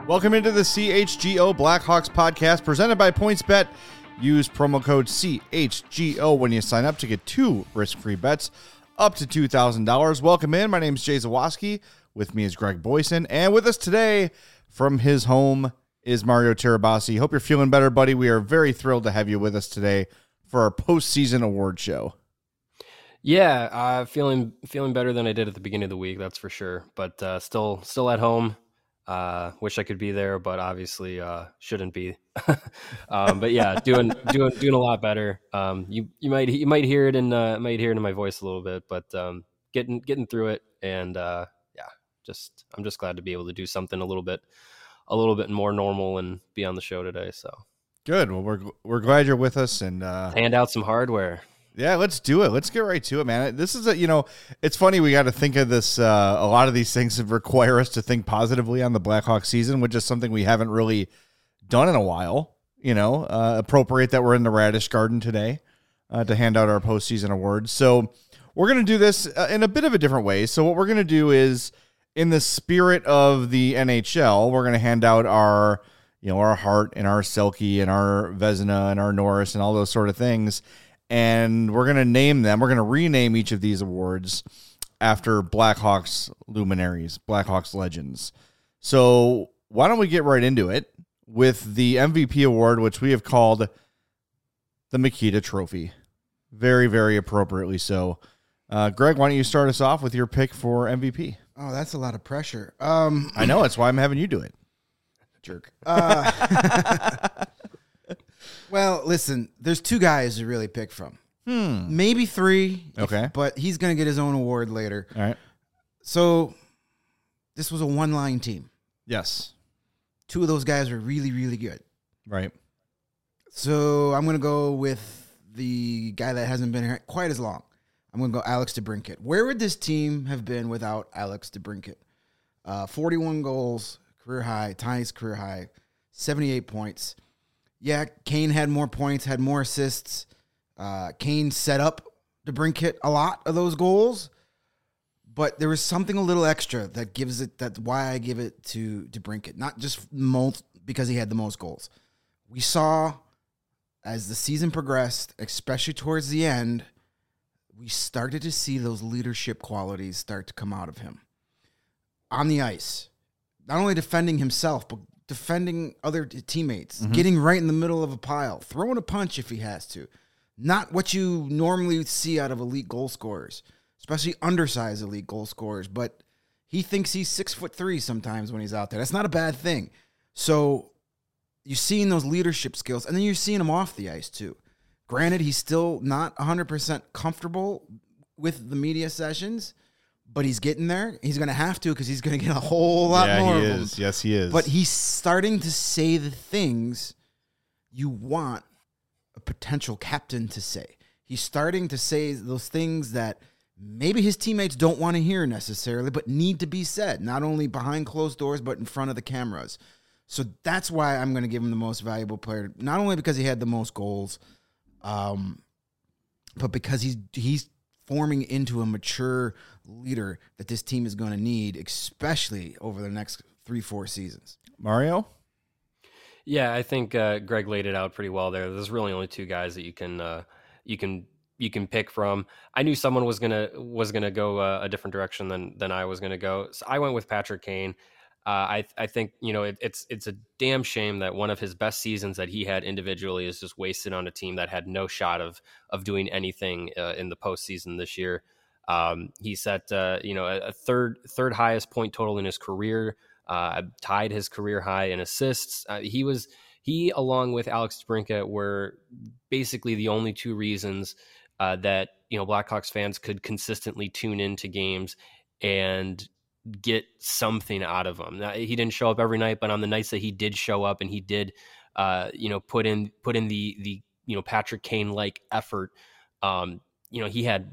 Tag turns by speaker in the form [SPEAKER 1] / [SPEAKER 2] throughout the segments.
[SPEAKER 1] Welcome into the CHGO Blackhawks podcast presented by PointsBet. Use promo code CHGO when you sign up to get 2 risk-free bets up to $2,000. Welcome in. My name is Jay Zawoski. With me is Greg Boyson. And with us today from his home is Mario Tirabassi. Hope you're feeling better, buddy. We are very thrilled to have you with us today for our postseason award show.
[SPEAKER 2] Yeah, feeling better than I did at the beginning of the week, that's for sure. But still at home. Wish I could be there, but obviously shouldn't be. But yeah, doing a lot better. You might hear it in my voice a little bit, but getting through it, and I'm just glad to be able to do something a little bit more normal and be on the show today. So
[SPEAKER 1] good. Well, we're glad you're with us and
[SPEAKER 2] hand out some hardware.
[SPEAKER 1] Yeah, let's do it. Let's get right to it, man. This is it's funny. We got to think of this. A lot of these things require us to think positively on the Blackhawks season, which is something we haven't really done in a while. Appropriate that we're in the Radish Garden today to hand out our postseason awards. So we're going to do this in a bit of a different way. So what we're going to do is, in the spirit of the NHL, we're going to hand out our Hart and our Selke and our Vezina and our Norris and all those sort of things. And we're going to name them. We're going to rename each of these awards after Blackhawks luminaries, Blackhawks legends. So why don't we get right into it with the MVP award, which we have called the Mikita Trophy. Very, very appropriately so. Greg, why don't you start us off with your pick for MVP?
[SPEAKER 3] Oh, that's a lot of pressure.
[SPEAKER 1] I know. That's why I'm having you do it.
[SPEAKER 3] Jerk. Well, listen, there's 2 guys to really pick from. Maybe 3.
[SPEAKER 1] Okay.
[SPEAKER 3] But he's going to get his own award later.
[SPEAKER 1] All right.
[SPEAKER 3] So this was a one-line team.
[SPEAKER 1] Yes.
[SPEAKER 3] 2 of those guys were really, really good.
[SPEAKER 1] Right.
[SPEAKER 3] So I'm going to go with the guy that hasn't been here quite as long. I'm going to go Alex DeBrincat. Where would this team have been without Alex DeBrincat? 41 goals, career high, ties career high, 78 points. Yeah, Kane had more points, had more assists. Kane set up DeBrincat a lot of those goals, but there was something a little extra that gives it. That's why I give it to DeBrincat, not just because he had the most goals. We saw as the season progressed, especially towards the end, we started to see those leadership qualities start to come out of him on the ice, not only defending himself, but defending other teammates, getting right in the middle of a pile, throwing a punch if he has to. Not what you normally see out of elite goal scorers, especially undersized elite goal scorers, but he thinks he's 6'3" sometimes when he's out there. That's not a bad thing. So you're seeing those leadership skills, and then you're seeing him off the ice too. Granted, he's still not 100% comfortable with the media sessions, but he's getting there. He's going to have to because he's going to get a whole lot more of them.
[SPEAKER 1] Yes, he is.
[SPEAKER 3] But he's starting to say the things you want a potential captain to say. He's starting to say those things that maybe his teammates don't want to hear necessarily, but need to be said, not only behind closed doors, but in front of the cameras. So that's why I'm going to give him the most valuable player, not only because he had the most goals, but because he's forming into a mature leader that this team is going to need, especially over the next 3-4 seasons.
[SPEAKER 1] Mario?
[SPEAKER 2] Yeah, I think Greg laid it out pretty well there. There's really only 2 guys that you can pick from. I knew someone was gonna go a different direction than I was gonna go, so I went with Patrick Kane. I think it's a damn shame that one of his best seasons that he had individually is just wasted on a team that had no shot of doing anything in the postseason this year. He set a third highest point total in his career, tied his career high in assists. He along with Alex DeBrincat were basically the only 2 reasons that Blackhawks fans could consistently tune into games and get something out of him. Now, he didn't show up every night, but on the nights that he did show up and he did, put in the Patrick Kane like effort. He had.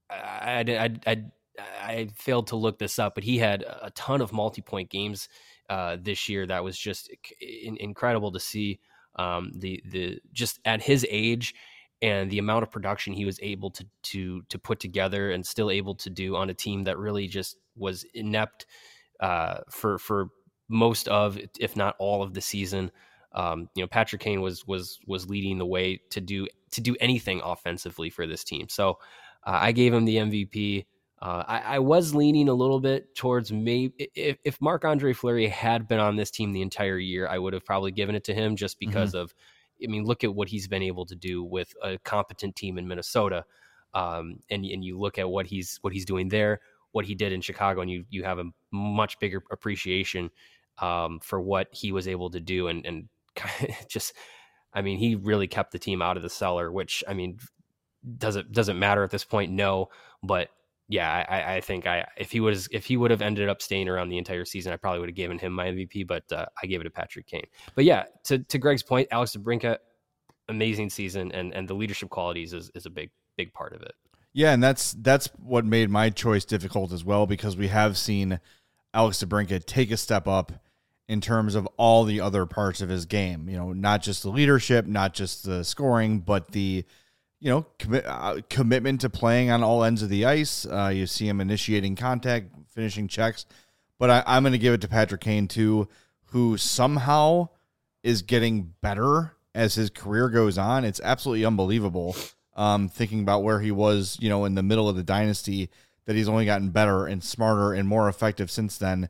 [SPEAKER 2] I failed to look this up, but he had a ton of multi-point games this year. That was just incredible to see. The just at his age and the amount of production he was able to put together and still able to do on a team that really just was inept for most of, if not all of the season. Patrick Kane was leading the way to do anything offensively for this team. So I gave him the MVP. I was leaning a little bit towards maybe if Marc-Andre Fleury had been on this team the entire year, I would have probably given it to him just because of, look at what he's been able to do with a competent team in Minnesota. And you look at what he's doing there, what he did in Chicago, and you have a much bigger appreciation for what he was able to do. And just, he really kept the team out of the cellar, which, doesn't matter at this point. No, but yeah, I think if he would have ended up staying around the entire season, I probably would have given him my MVP, but I gave it to Patrick Kane. But yeah, to Greg's point, Alex DeBrincat, amazing season, and the leadership qualities is a big part of it.
[SPEAKER 1] Yeah, and that's what made my choice difficult as well, because we have seen Alex DeBrincat take a step up in terms of all the other parts of his game. Not just the leadership, not just the scoring, but the commitment to playing on all ends of the ice. You see him initiating contact, finishing checks. But I'm going to give it to Patrick Kane, too, who somehow is getting better as his career goes on. It's absolutely unbelievable, thinking about where he was, in the middle of the dynasty, that he's only gotten better and smarter and more effective since then.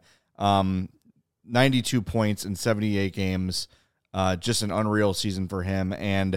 [SPEAKER 1] 92 points in 78 games, just an unreal season for him. And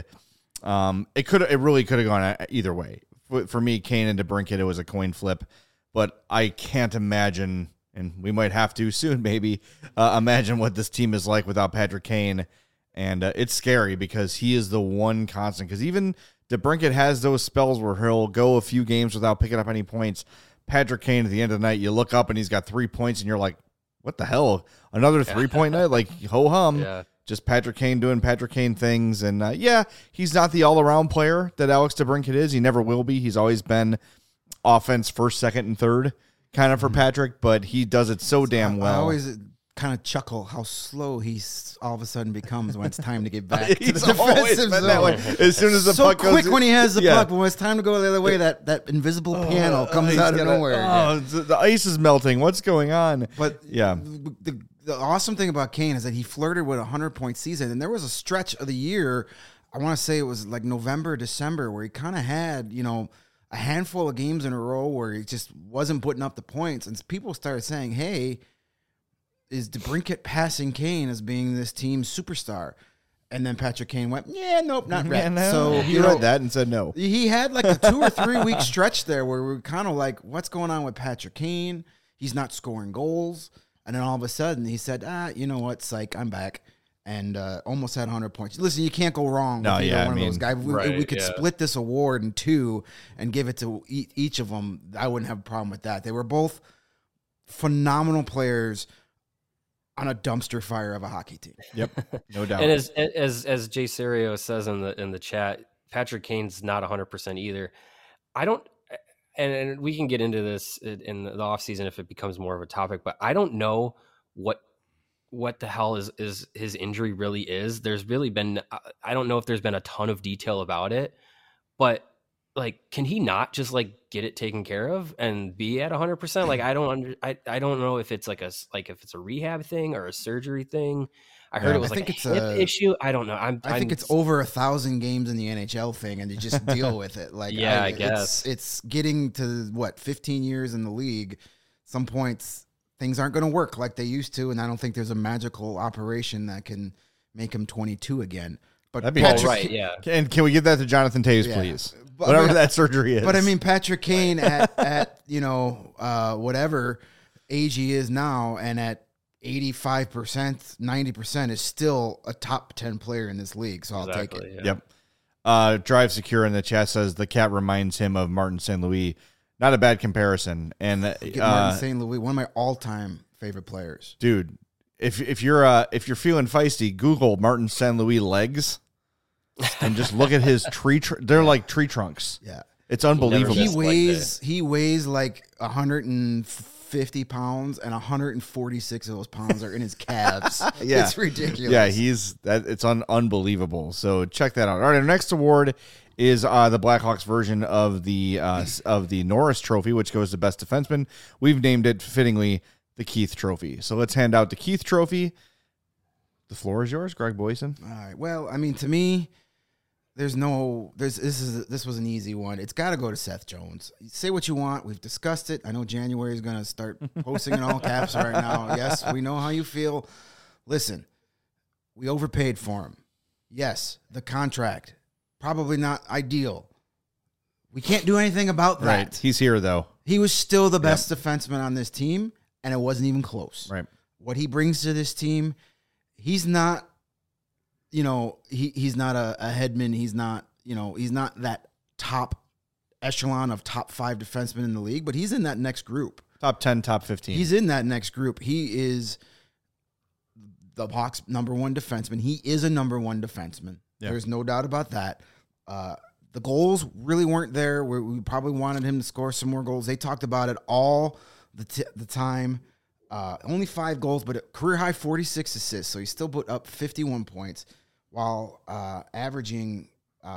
[SPEAKER 1] it really could have gone either way. For me, Kane and DeBrincat, it was a coin flip, but I can't imagine, and we might have to soon, maybe, imagine what this team is like without Patrick Kane. And it's scary because he is the one constant. Because even DeBrincat has those spells where he'll go a few games without picking up any points. Patrick Kane, at the end of the night, you look up and he's got 3 points, and you're like, what the hell? Another 3-point night? Like, ho-hum.
[SPEAKER 2] Yeah.
[SPEAKER 1] Just Patrick Kane doing Patrick Kane things. And, he's not the all-around player that Alex DeBrincat is. He never will be. He's always been offense first, second, and third kind of for Patrick, but he does it so damn well.
[SPEAKER 3] I always kind of chuckle how slow he all of a sudden becomes when it's time to get back to the defensive zone.
[SPEAKER 1] That way. As soon as the
[SPEAKER 3] so
[SPEAKER 1] puck goes
[SPEAKER 3] quick when he has the puck, but when it's time to go the other way, that invisible panel comes out of nowhere.
[SPEAKER 1] The ice is melting. What's going on?
[SPEAKER 3] But
[SPEAKER 1] yeah,
[SPEAKER 3] the awesome thing about Kane is that he flirted with a 100-point season, and there was a stretch of the year, I want to say it was like November, December, where he kind of had, a handful of games in a row where he just wasn't putting up the points, and people started saying, hey, is DeBrincat passing Kane as being this team's superstar? And then Patrick Kane went, nope, not yet.
[SPEAKER 1] No.
[SPEAKER 3] So
[SPEAKER 1] he read that and said no.
[SPEAKER 3] He had like a 2 or 3 week stretch there where we were kind of like, what's going on with Patrick Kane? He's not scoring goals. And then all of a sudden he said, you know what, psych, I'm back. And almost had 100 points. Listen, you can't go wrong with either one of those guys. We could split this award in 2 and give it to each of them. I wouldn't have a problem with that. They were both phenomenal players on a dumpster fire of a hockey team.
[SPEAKER 1] Yep, no doubt.
[SPEAKER 2] And as Jay Serio says in the chat, Patrick Kane's not 100% either. I don't, and we can get into this in the offseason if it becomes more of a topic, but I don't know what the hell is his injury really is. There's really been, I don't know if there's been a ton of detail about it, but like, can he not just like get it taken care of and be at 100%? Like, I don't know if it's if it's a rehab thing or a surgery thing. I heard it was like a hip issue. I don't know. I
[SPEAKER 3] think it's over 1,000 games in the NHL thing, and you just deal with it. Like,
[SPEAKER 2] I guess
[SPEAKER 3] it's getting to 15 years in the league. Some points things aren't going to work like they used to, and I don't think there's a magical operation that can make him 22 again. But
[SPEAKER 1] that'd be
[SPEAKER 3] Patrick,
[SPEAKER 2] right, yeah.
[SPEAKER 1] And can we give that to Jonathan Toews, please? Whatever that surgery is.
[SPEAKER 3] But Patrick Kane at whatever age he is now, and at 85%, 90% is still a top 10 player in this league. So I'll take it.
[SPEAKER 2] Yeah.
[SPEAKER 1] Yep. Drive Secure in the chat says the cat reminds him of Martin St. Louis. Not a bad comparison. And
[SPEAKER 3] Martin St. Louis, one of my all-time favorite players.
[SPEAKER 1] Dude, if you're feeling feisty, Google Martin St. Louis legs. And just look at his tree. They're like tree trunks.
[SPEAKER 3] Yeah,
[SPEAKER 1] it's unbelievable.
[SPEAKER 3] He weighs like 150 pounds, and 146 of those pounds are in his calves.
[SPEAKER 1] Yeah,
[SPEAKER 3] it's ridiculous.
[SPEAKER 1] Yeah, it's unbelievable. So check that out. All right, our next award is the Blackhawks version of the Norris Trophy, which goes to best defenseman. We've named it fittingly the Keith Trophy. So let's hand out the Keith Trophy. The floor is yours, Greg Boysen.
[SPEAKER 3] All right. Well, I mean, to me, this was an easy one. It's got to go to Seth Jones. Say what you want. We've discussed it. I know January is going to start posting in all caps right now. Yes, we know how you feel. Listen, we overpaid for him. Yes, the contract, probably not ideal. We can't do anything about that.
[SPEAKER 1] Right. He's here, though.
[SPEAKER 3] He was still the best defenseman on this team, and it wasn't even close.
[SPEAKER 1] Right.
[SPEAKER 3] What he brings to this team, he's not, he's not a Hedman. He's not, he's not that top echelon of top 5 defensemen in the league, but he's in that next group.
[SPEAKER 1] Top 10, top 15.
[SPEAKER 3] He's in that next group. He is the Hawks' number 1 defenseman. He is a number 1 defenseman. Yeah. There's no doubt about that. The goals really weren't there. We probably wanted him to score some more goals. They talked about it all the time. Only 5 goals, but a career high 46 assists. So he still put up 51 points while averaging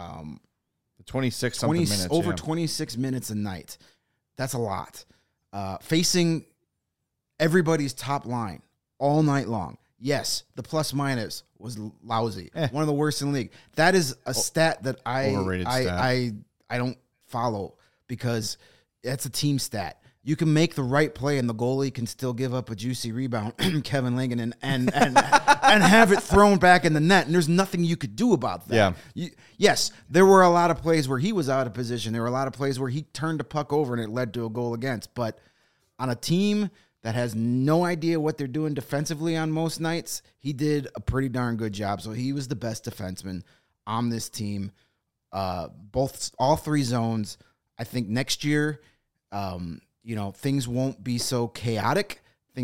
[SPEAKER 1] 26 something minutes.
[SPEAKER 3] Over 26 minutes a night. That's a lot. Facing everybody's top line all night long. Yes, the plus minus was lousy. One of the worst in the league. That is a stat that I don't follow because that's a team stat. You can make the right play and the goalie can still give up a juicy rebound, Kevin Langen, and have it thrown back in the net, and there's nothing you could do about that.
[SPEAKER 1] Yeah.
[SPEAKER 3] Yes, there were a lot of plays where he was out of position. There were a lot of plays where he turned the puck over and it led to a goal against. But on a team that has no idea what they're doing defensively on most nights, he did a pretty darn good job. So he was the best defenseman on this team. All 3 zones. I think next year, things won't be so chaotic.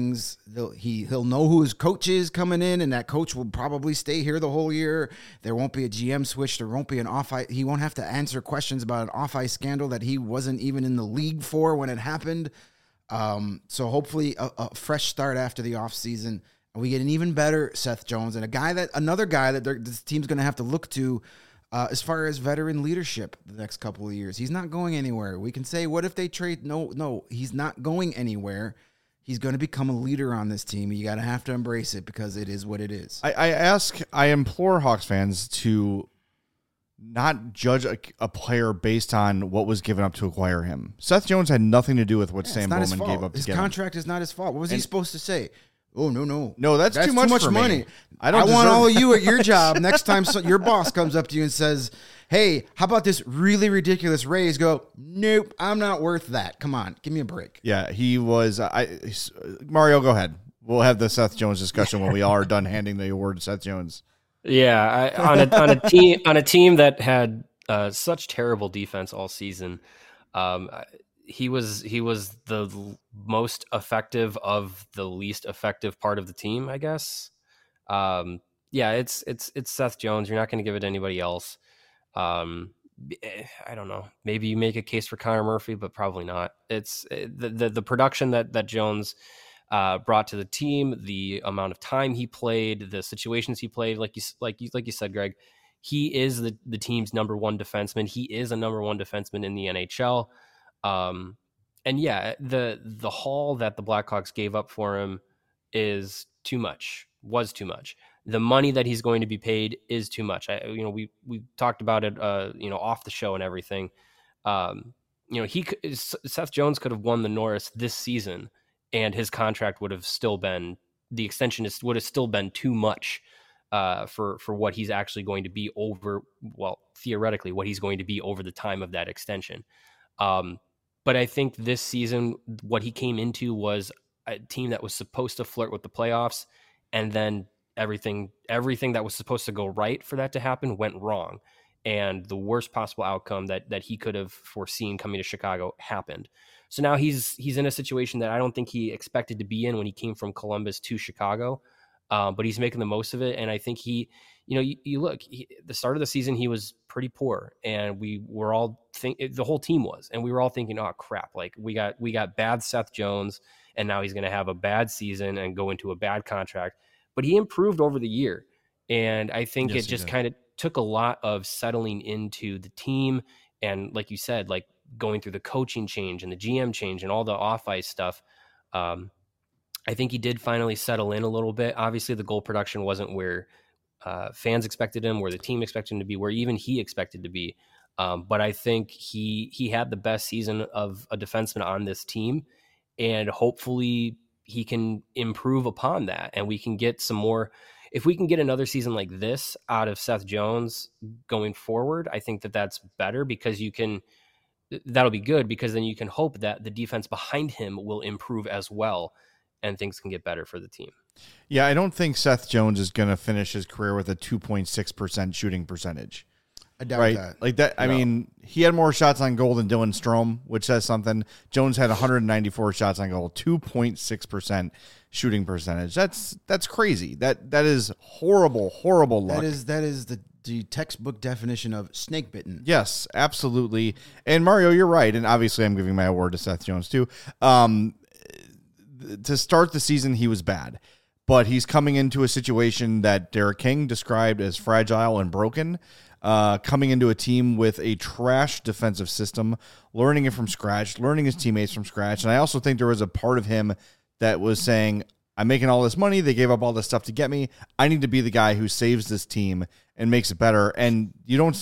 [SPEAKER 3] He'll know who his coach is coming in, and that coach will probably stay here the whole year. There won't be a GM switch. There won't be an off-ice. He won't have to answer questions about an off-ice scandal that he wasn't even in the league for when it happened. So hopefully a fresh start after the offseason, and we get an even better Seth Jones and another guy that this team's going to have to look to as far as veteran leadership the next couple of years. He's not going anywhere. We can say, what if they trade? No, he's not going anywhere. He's going to become a leader on this team. You got to have to embrace it because it is what it is.
[SPEAKER 1] I implore Hawks fans to not judge a player based on what was given up to acquire him. Seth Jones had nothing to do with what Sam Bowman gave up to
[SPEAKER 3] his
[SPEAKER 1] get
[SPEAKER 3] contract is not his fault. What was he supposed to say? Oh, no.
[SPEAKER 1] No, that's too much for
[SPEAKER 3] money.
[SPEAKER 1] Me.
[SPEAKER 3] I want all of you at your job. Next time your boss comes up to you and says, hey, how about this really ridiculous raise? Go, nope, I'm not worth that. Come on, give me a break.
[SPEAKER 1] Yeah, he was. Mario, go ahead. We'll have the Seth Jones discussion when we all are done handing the award to Seth Jones.
[SPEAKER 2] Yeah, on a team that had such terrible defense all season, he was the most effective of the least effective part of the team, I guess. It's Seth Jones. You're not going to give it to anybody else. I don't know. Maybe you make a case for Connor Murphy, but probably not. It's the production that Jones brought to the team, the amount of time he played, the situations he played, like you said, Greg. He is the team's number 1 defenseman. He is a number 1 defenseman in the NHL. And yeah, the haul that the Blackhawks gave up for him was too much. The money that he's going to be paid is too much. We talked about it, off the show and everything. Seth Jones could have won the Norris this season, and his contract would have still been, the extension would have still been too much for what he's actually going to be over. Well, theoretically, what he's going to be over the time of that extension. But I think this season, what he came into was a team that was supposed to flirt with the playoffs, and then everything that was supposed to go right for that to happen went wrong. And the worst possible outcome that he could have foreseen coming to Chicago happened. So now he's in a situation that I don't think he expected to be in when he came from Columbus to Chicago. But he's making the most of it. And I think you look, the start of the season, he was pretty poor, and we were all the whole team was, and we were all thinking, oh crap, like we got bad Seth Jones, and now he's going to have a bad season and go into a bad contract. But he improved over the year. And I think it just kind of took a lot of settling into the team. And like you said, like going through the coaching change and the GM change and all the off ice stuff. I think he did finally settle in a little bit. Obviously, the goal production wasn't where fans expected him, where the team expected him to be, where even he expected to be. But I think he had the best season of a defenseman on this team, and hopefully he can improve upon that, and we can get some more. If we can get another season like this out of Seth Jones going forward, I think that's better, because that'll be good, because then you can hope that the defense behind him will improve as well, and things can get better for the team.
[SPEAKER 1] Yeah, I don't think Seth Jones is going to finish his career with a 2.6% shooting percentage.
[SPEAKER 3] I doubt that.
[SPEAKER 1] Like that. I mean, he had more shots on goal than Dylan Strome, which says something. Jones had 194 shots on goal, 2.6% shooting percentage. That's crazy. That is horrible luck.
[SPEAKER 3] That is the textbook definition of snake bitten.
[SPEAKER 1] Yes, absolutely. And Mario, you're right. And obviously, I'm giving my award to Seth Jones too. To start the season, he was bad, but he's coming into a situation that Derek King described as fragile and broken. Coming into a team with a trash defensive system, learning it from scratch, learning his teammates from scratch. And I also think there was a part of him that was saying, I'm making all this money. They gave up all this stuff to get me. I need to be the guy who saves this team and makes it better. And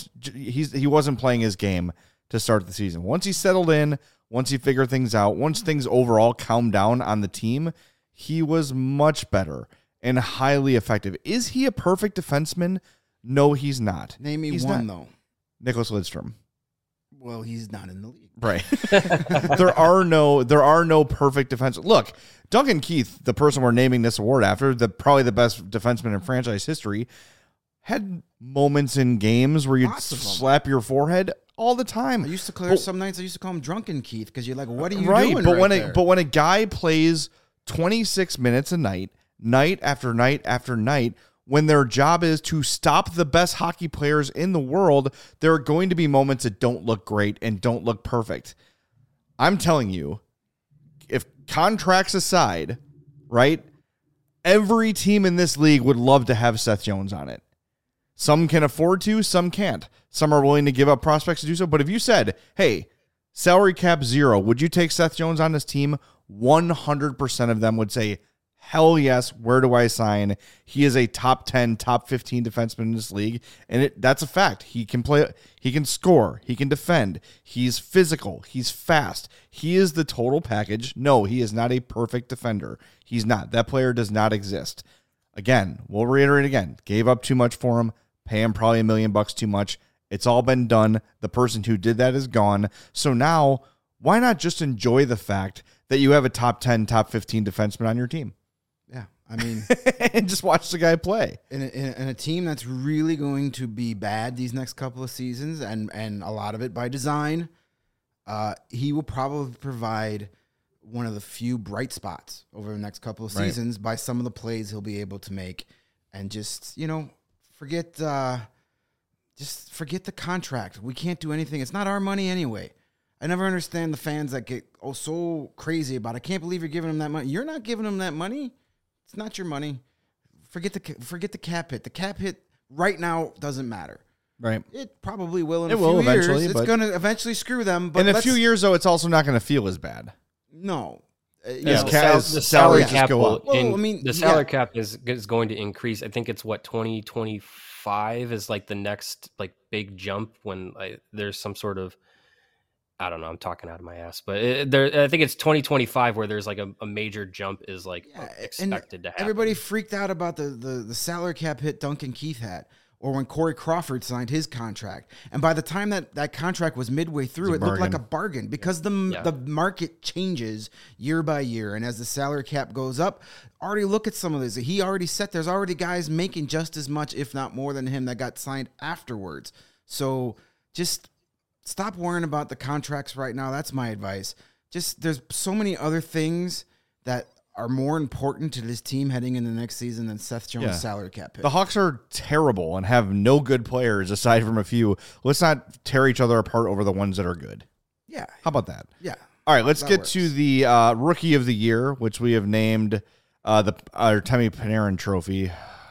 [SPEAKER 1] he wasn't playing his game to start the season. Once he settled in, once he figured things out, once things overall calmed down on the team, he was much better and highly effective. Is he a perfect defenseman? No, he's not.
[SPEAKER 3] Name me
[SPEAKER 1] he's
[SPEAKER 3] one,
[SPEAKER 1] not.
[SPEAKER 3] though.
[SPEAKER 1] Nicholas Lidstrom.
[SPEAKER 3] Well, he's not in the league.
[SPEAKER 1] Right. There are no perfect defense. Look, Duncan Keith, the person we're naming this award after, probably the best defenseman in franchise history, had moments in games where you'd slap your forehead all the time.
[SPEAKER 3] I used to clear some nights. I used to call him Drunken Keith, because you're like, what are you doing?
[SPEAKER 1] But when a guy plays 26 minutes a night after night after night, when their job is to stop the best hockey players in the world, there are going to be moments that don't look great and don't look perfect. I'm telling you, if contracts aside, right, every team in this league would love to have Seth Jones on it. Some can afford to, some can't. Some are willing to give up prospects to do so. But if you said, hey, salary cap 0, would you take Seth Jones on this team? 100% of them would say, hell yes, where do I sign? He is a top 10, top 15 defenseman in this league, and that's a fact. He can play, he can score, he can defend, he's physical, he's fast. He is the total package. No, he is not a perfect defender. He's not. That player does not exist. Again, we'll reiterate again. Gave up too much for him, pay him probably $1 million too much. It's all been done. The person who did that is gone. So now, why not just enjoy the fact that you have a top 10, top 15 defenseman on your team?
[SPEAKER 3] Yeah, I mean,
[SPEAKER 1] and just watch the guy play
[SPEAKER 3] in a team that's really going to be bad these next couple of seasons, and a lot of it by design. He will probably provide one of the few bright spots over the next couple of seasons by some of the plays he'll be able to make, and just forget the contract. We can't do anything. It's not our money anyway. I never understand the fans that get so crazy about it. I can't believe you're giving them that money. You're not giving them that money. It's not your money. Forget the cap hit. The cap hit right now doesn't matter.
[SPEAKER 1] Right.
[SPEAKER 3] It probably will in a few years. It's going to eventually screw them. But
[SPEAKER 1] in a few years, though, it's also not going to feel as bad.
[SPEAKER 3] No.
[SPEAKER 2] The salary cap will the salary cap is going to increase. I think it's 2025 is like the next like big jump when there's some sort of, I don't know, I'm talking out of my ass, but I think it's 2025 where there's like a major jump is like expected to happen.
[SPEAKER 3] Everybody freaked out about the salary cap hit Duncan Keith had, or when Corey Crawford signed his contract. And by the time that contract was midway through, it looked like a bargain, because the market changes year by year. And as the salary cap goes up, already look at some of this. He already said there's already guys making just as much, if not more than him, that got signed afterwards. So just stop worrying about the contracts right now. That's my advice. Just there's so many other things that are more important to this team heading into the next season than Seth Jones' salary cap hit.
[SPEAKER 1] The Hawks are terrible and have no good players aside from a few. Let's not tear each other apart over the ones that are good.
[SPEAKER 3] Yeah.
[SPEAKER 1] How about that?
[SPEAKER 3] Yeah.
[SPEAKER 1] All right, let's get to the Rookie of the Year, which we have named our Artemi Panarin Trophy.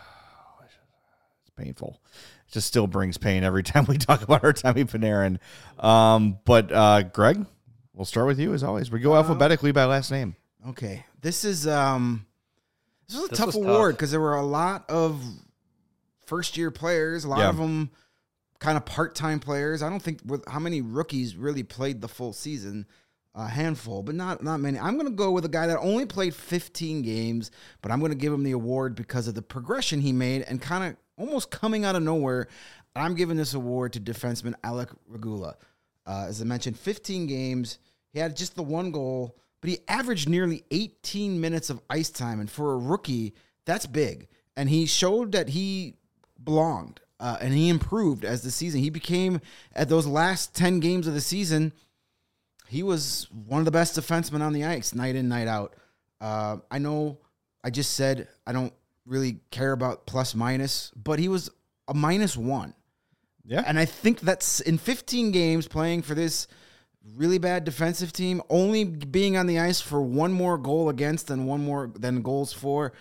[SPEAKER 1] It's painful. It just still brings pain every time we talk about Artemi Panarin. But Greg, we'll start with you as always. We go alphabetically by last name.
[SPEAKER 3] Okay, this was a
[SPEAKER 2] This
[SPEAKER 3] tough
[SPEAKER 2] was
[SPEAKER 3] award
[SPEAKER 2] tough.
[SPEAKER 3] because there were a lot of first-year players, a lot of them kind of part-time players. I don't think how many rookies really played the full season. A handful, but not many. I'm going to go with a guy that only played 15 games, but I'm going to give him the award because of the progression he made and kind of almost coming out of nowhere. I'm giving this award to defenseman Alec Regula. As I mentioned, 15 games. He had just the one goal, but he averaged nearly 18 minutes of ice time. And for a rookie, that's big. And he showed that he belonged and he improved as the season. He became, at those last 10 games of the season, he was one of the best defensemen on the ice, night in, night out. I know I just said I don't really care about plus minus, but he was a -1.
[SPEAKER 1] Yeah.
[SPEAKER 3] And I think that's in 15 games playing for this really bad defensive team, only being on the ice for one more goal against and one more than goals for.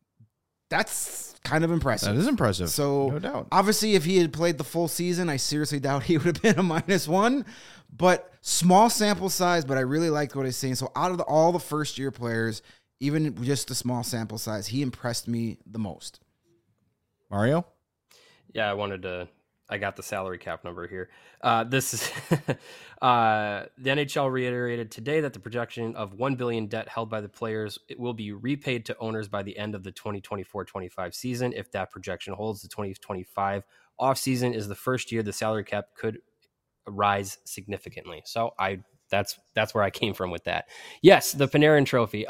[SPEAKER 3] That's kind of impressive.
[SPEAKER 1] That is impressive.
[SPEAKER 3] So,
[SPEAKER 1] no doubt.
[SPEAKER 3] Obviously, if he had played the full season, I seriously doubt he would have been a -1. But small sample size, but I really liked what he's saying. So, out of all the first-year players, even just the small sample size, he impressed me the most.
[SPEAKER 1] Mario?
[SPEAKER 2] Yeah, I got the salary cap number here. This is the NHL reiterated today that the projection of $1 billion debt held by the players it will be repaid to owners by the end of the 2024-25 season. If that projection holds, the 2025 offseason is the first year the salary cap could rise significantly. So that's where I came from with that. Yes, the Panarin Trophy.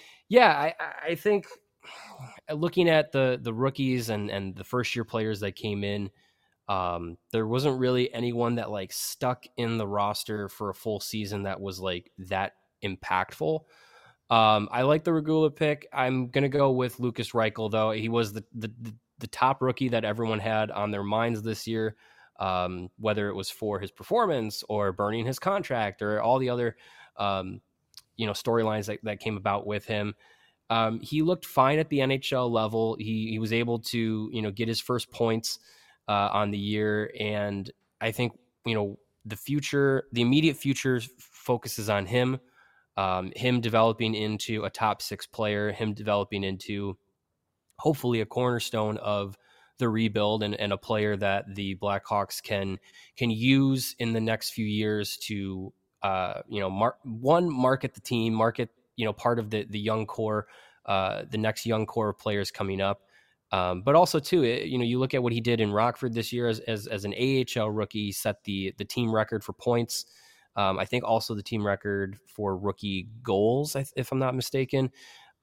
[SPEAKER 2] I think looking at the rookies and the first year players that came in, there wasn't really anyone that like stuck in the roster for a full season that was like that impactful. I like the Regula pick. I'm going to go with Lucas Reichel, though. He was the top rookie that everyone had on their minds this year, whether it was for his performance or burning his contract or all the other, storylines that came about with him. He looked fine at the NHL level. He was able to, get his first points on the year. And I think, the immediate future focuses on him developing into a top 6 player, him developing into hopefully a cornerstone of the rebuild and a player that the Blackhawks can use in the next few years to, market the team, market, part of the young core, the next young core of players coming up. But also too, you look at what he did in Rockford this year as an AHL rookie. He set the team record for points. I think also the team record for rookie goals, if I'm not mistaken.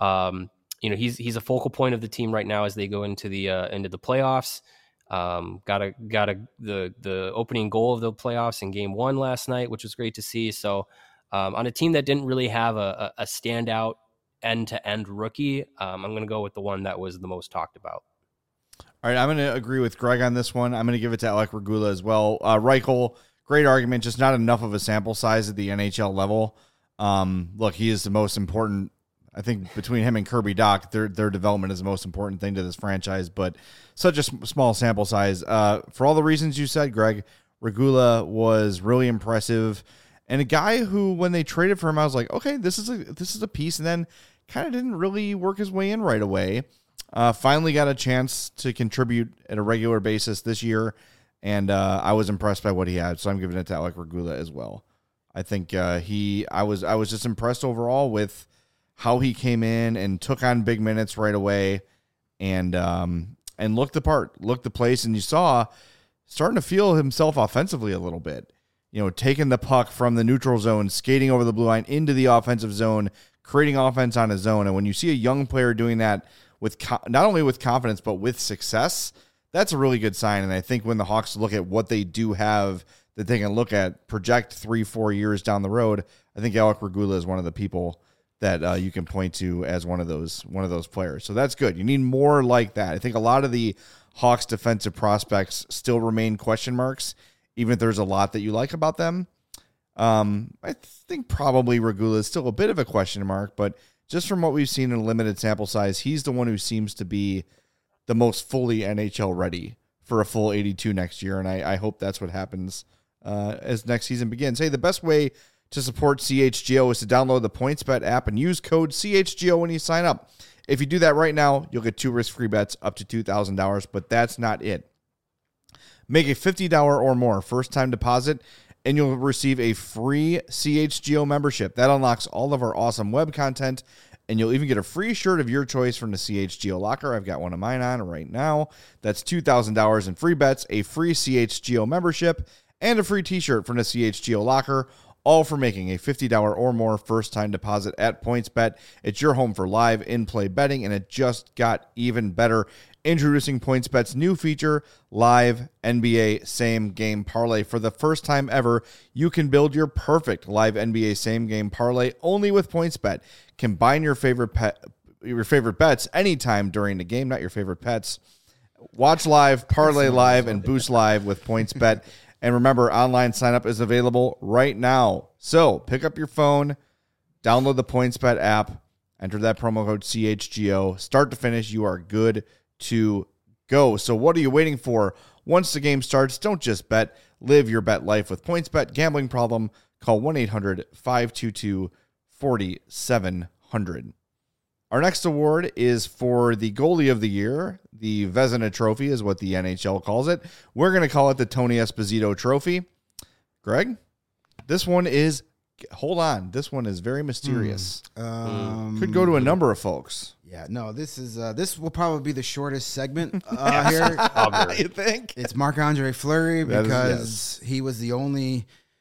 [SPEAKER 2] He's a focal point of the team right now as they go into the playoffs. Got the opening goal of the playoffs in Game 1 last night, which was great to see. So on a team that didn't really have a standout end-to-end rookie, I'm going to go with the one that was the most talked about.
[SPEAKER 1] All right, I'm going to agree with Greg on this one. I'm going to give it to Alec Regula as well. Reichel, great argument, just not enough of a sample size at the NHL level. Look, he is the most important. I think between him and Kirby Dach, their development is the most important thing to this franchise, but such a small sample size. For all the reasons you said, Greg, Regula was really impressive. And a guy who, when they traded for him, I was like, okay, this is a piece, and then kind of didn't really work his way in right away. Finally got a chance to contribute at a regular basis this year, and I was impressed by what he had, so I'm giving it to Alec Regula as well. I think I was just impressed overall with how he came in and took on big minutes right away, and looked the part, looked the place, and you saw starting to feel himself offensively a little bit. Taking the puck from the neutral zone, skating over the blue line into the offensive zone, creating offense on his own. And when you see a young player doing that with not only with confidence, but with success, that's a really good sign. And I think when the Hawks look at what they do have that they can look at, project 3-4 years down the road, I think Alec Regula is one of the people that you can point to as one of those players. So that's good. You need more like that. I think a lot of the Hawks defensive prospects still remain question marks, even if there's a lot that you like about them. I think probably Regula is still a bit of a question mark, but just from what we've seen in a limited sample size, he's the one who seems to be the most fully NHL ready for a full 82 next year, and I hope that's what happens as next season begins. Hey, the best way to support CHGO is to download the PointsBet app and use code CHGO when you sign up. If you do that right now, you'll get 2 risk-free bets up to $2,000, but that's not it. Make a $50 or more first-time deposit, and you'll receive a free CHGO membership. That unlocks all of our awesome web content, and you'll even get a free shirt of your choice from the CHGO locker. I've got one of mine on right now. That's $2,000 in free bets, a free CHGO membership, and a free t-shirt from the CHGO locker, all for making a $50 or more first-time deposit at PointsBet. It's your home for live in-play betting, and it just got even better. Introducing PointsBet's new feature, Live NBA Same Game Parlay. For the first time ever, you can build your perfect Live NBA Same Game Parlay only with PointsBet. Combine your favorite bets anytime during the game, not your favorite pets. Watch live, parlay live, and boost live with PointsBet. And remember, online sign-up is available right now. So pick up your phone, download the PointsBet app, enter that promo code CHGO. Start to finish, you are good to go. So what are you waiting for? Once the game starts, don't just bet. Live your bet life with PointsBet. Gambling problem? Call 1-800-522-4700. Our next award is for the goalie of the year. The Vezina Trophy is what the NHL calls it. We're going to call it the Tony Esposito Trophy. Greg, this one is, hold on, this one is very mysterious. Could go to a number of folks.
[SPEAKER 3] Yeah, no, this will probably be the shortest segment here.
[SPEAKER 1] You think?
[SPEAKER 3] It's Marc-Andre Fleury because he was the only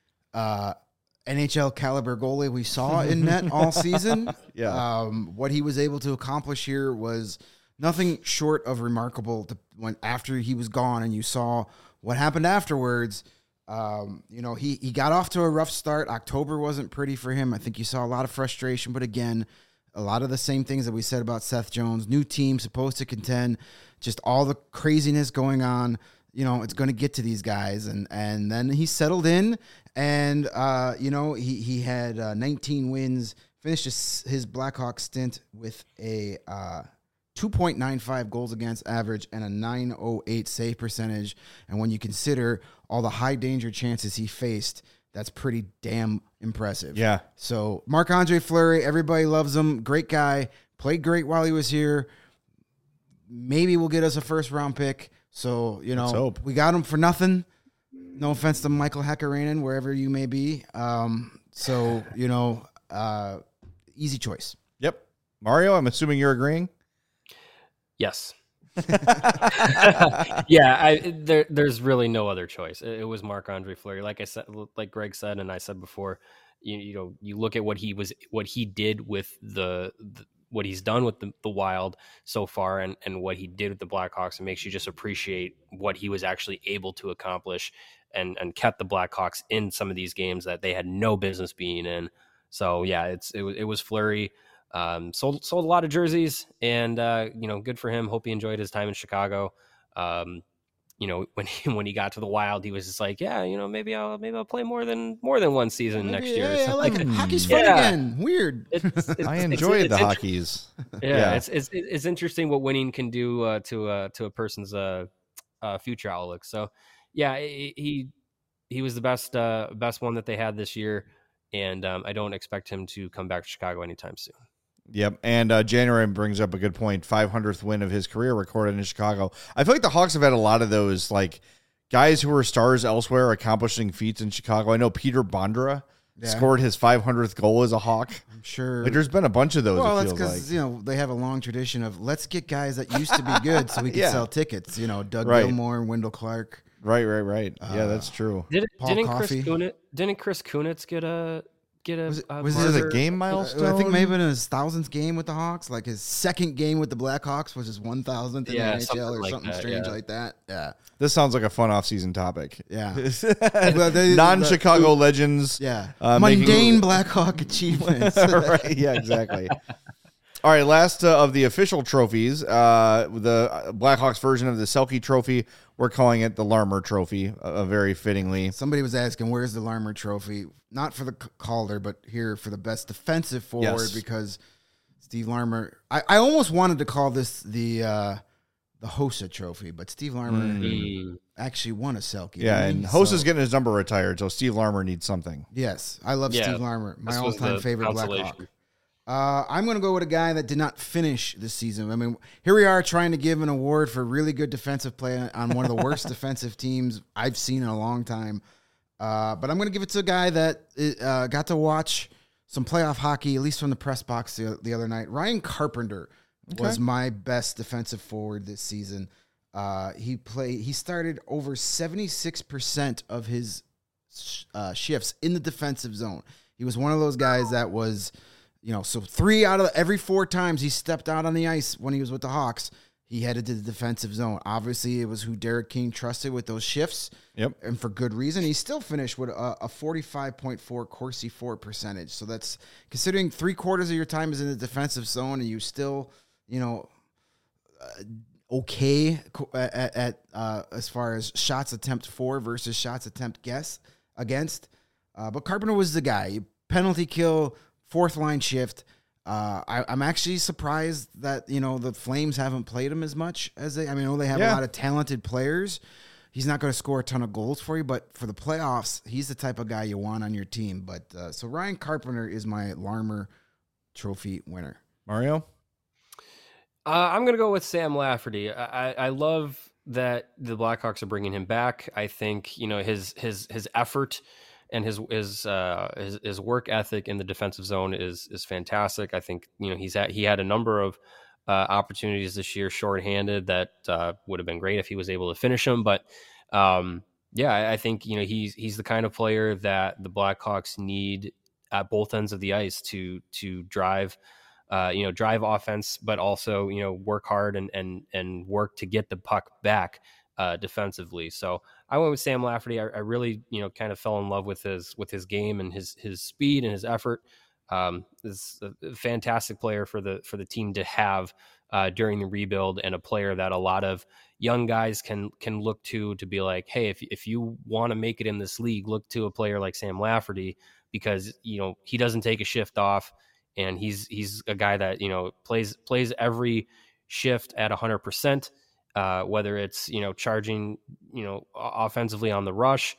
[SPEAKER 3] NHL caliber goalie we saw in net all season.
[SPEAKER 1] Yeah.
[SPEAKER 3] What he was able to accomplish here was nothing short of remarkable. When after he was gone and you saw what happened afterwards, he got off to a rough start. October wasn't pretty for him. I think you saw a lot of frustration, but again, a lot of the same things that we said about Seth Jones. New team, supposed to contend, just all the craziness going on. It's going to get to these guys. And then he settled in and, he had 19 wins, finished his Blackhawks stint with a 2.95 goals against average and a .908 save percentage. And when you consider all the high danger chances he faced, that's pretty damn impressive.
[SPEAKER 1] Yeah.
[SPEAKER 3] So Marc-Andre Fleury, everybody loves him. Great guy. Played great while he was here. Maybe we'll get us a first-round pick. So,
[SPEAKER 1] Let's hope.
[SPEAKER 3] We got him for nothing. No offense to Michael Hakkarainen, wherever you may be. Easy choice.
[SPEAKER 1] Yep. Mario, I'm assuming you're agreeing?
[SPEAKER 2] Yes. Yeah, there's really no other choice. It was Marc-Andre Fleury. Like I said, like Greg said, and I said before, you look at what he did with what he's done with the Wild so far, and what he did with the Blackhawks, it makes you just appreciate what he was actually able to accomplish, and kept the Blackhawks in some of these games that they had no business being in. So yeah, it was Fleury. Sold a lot of jerseys, and good for him. Hope he enjoyed his time in Chicago. When he got to the Wild, he was just like, yeah, maybe I'll play more than one season next year.
[SPEAKER 3] Yeah, I like it. Hockey's fun again. Weird.
[SPEAKER 1] I enjoyed the hockeys.
[SPEAKER 2] Yeah, it's interesting what winning can do to a person's future outlook. So yeah, he was the best one that they had this year, and I don't expect him to come back to Chicago anytime soon.
[SPEAKER 1] Yep, and January brings up a good point. 500th win of his career recorded in Chicago. I feel like the Hawks have had a lot of those, like, guys who were stars elsewhere accomplishing feats in Chicago. I know Peter Bondra scored his 500th goal as a Hawk.
[SPEAKER 3] I'm sure.
[SPEAKER 1] Like, there's been a bunch of those.
[SPEAKER 3] Well, that's because they have a long tradition of let's get guys that used to be good so we can sell tickets. Doug Gilmour, Wendell Clark.
[SPEAKER 1] Right. Yeah, that's true.
[SPEAKER 2] Didn't Chris Kunitz get a
[SPEAKER 1] was it a game milestone?
[SPEAKER 3] I think maybe in his 1000th game with the Hawks, like his second game with the Blackhawks was his 1000th in the NHL or something strange like that. Yeah.
[SPEAKER 1] This sounds like a fun off-season topic.
[SPEAKER 3] Yeah.
[SPEAKER 1] Non-Chicago legends.
[SPEAKER 3] Yeah. Mundane Blackhawk achievements.
[SPEAKER 1] Right. Yeah, exactly. All right, last of the official trophies, the Blackhawks version of the Selke Trophy, we're calling it the Larmer Trophy, very fittingly.
[SPEAKER 3] Somebody was asking, where's the Larmer Trophy? Not for the Calder, but here for the best defensive forward, because Steve Larmer, I almost wanted to call this the the Hossa Trophy, but Steve Larmer actually won a Selke.
[SPEAKER 1] Yeah, and Hossa's getting his number retired, so Steve Larmer needs something.
[SPEAKER 3] Yes, I love Steve Larmer, my all-time favorite Blackhawk. I'm going to go with a guy that did not finish this season. I mean, here we are trying to give an award for really good defensive play on one of the worst defensive teams I've seen in a long time. But I'm going to give it to a guy that got to watch some playoff hockey, at least from the press box the other night. Ryan Carpenter was my best defensive forward this season. He started over 76% of his shifts in the defensive zone. He was one of those guys that was, so 3 out of every 4 times he stepped out on the ice when he was with the Hawks, he headed to the defensive zone. Obviously, it was who Derek King trusted with those shifts.
[SPEAKER 1] Yep.
[SPEAKER 3] And for good reason. He still finished with a 45.4 Corsi for percentage. So that's considering 3/4 of your time is in the defensive zone and you still, okay at as far as shots attempt for versus shots attempt against. But Carpenter was the guy. Penalty kill, 4th line shift. I'm actually surprised that, the Flames haven't played him as much as I know they have a lot of talented players. He's not going to score a ton of goals for you, but for the playoffs, he's the type of guy you want on your team. But so Ryan Carpenter is my Larmer Trophy winner.
[SPEAKER 1] Mario?
[SPEAKER 2] I'm going to go with Sam Lafferty. I love that the Blackhawks are bringing him back. I think, his effort and his work ethic in the defensive zone is fantastic. I think he had a number of opportunities this year shorthanded that would have been great if he was able to finish them. But I think he's the kind of player that the Blackhawks need at both ends of the ice to drive offense, but also work hard and work to get the puck back defensively. So I went with Sam Lafferty. I really, kind of fell in love with his game and his speed and his effort. Is a fantastic player for the team to have during the rebuild, and a player that a lot of young guys can look to be like, hey, if you want to make it in this league, look to a player like Sam Lafferty, because he doesn't take a shift off, and he's a guy that plays every shift at 100%. Whether it's charging offensively on the rush,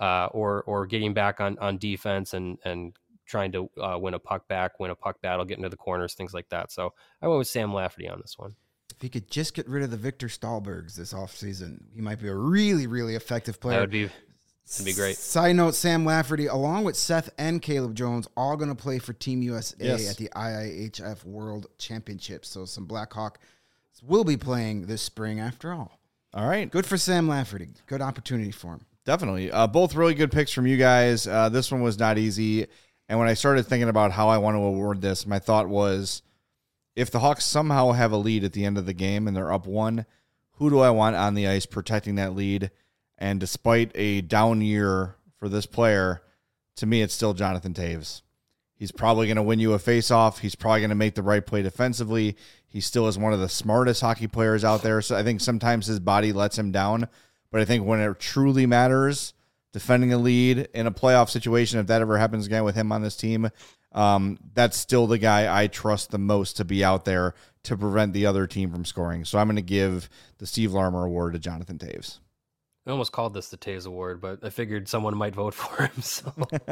[SPEAKER 2] or getting back on defense and trying to win a puck battle, get into the corners, things like that. So I went with Sam Lafferty on this one.
[SPEAKER 3] If he could just get rid of the Victor Stahlbergs this offseason, he might be a really, really effective player.
[SPEAKER 2] That'd be great.
[SPEAKER 3] Side note, Sam Lafferty, along with Seth and Caleb Jones, all going to play for Team USA at the IIHF World Championship. So some Blackhawk will be playing this spring after all.
[SPEAKER 1] All right.
[SPEAKER 3] Good for Sam Lafferty. Good opportunity for him.
[SPEAKER 1] Definitely. Both really good picks from you guys. This one was not easy. And when I started thinking about how I want to award this, my thought was, if the Hawks somehow have a lead at the end of the game and they're up 1, who do I want on the ice protecting that lead? And despite a down year for this player, to me, it's still Jonathan Toews. He's probably going to win you a faceoff. He's probably going to make the right play defensively. He still is one of the smartest hockey players out there. So I think sometimes his body lets him down. But I think when it truly matters, defending a lead in a playoff situation, if that ever happens again with him on this team, that's still the guy I trust the most to be out there to prevent the other team from scoring. So I'm going to give the Steve Larmer Award to Jonathan Toews.
[SPEAKER 2] I almost called this the Toews Award, but I figured someone might vote for him. So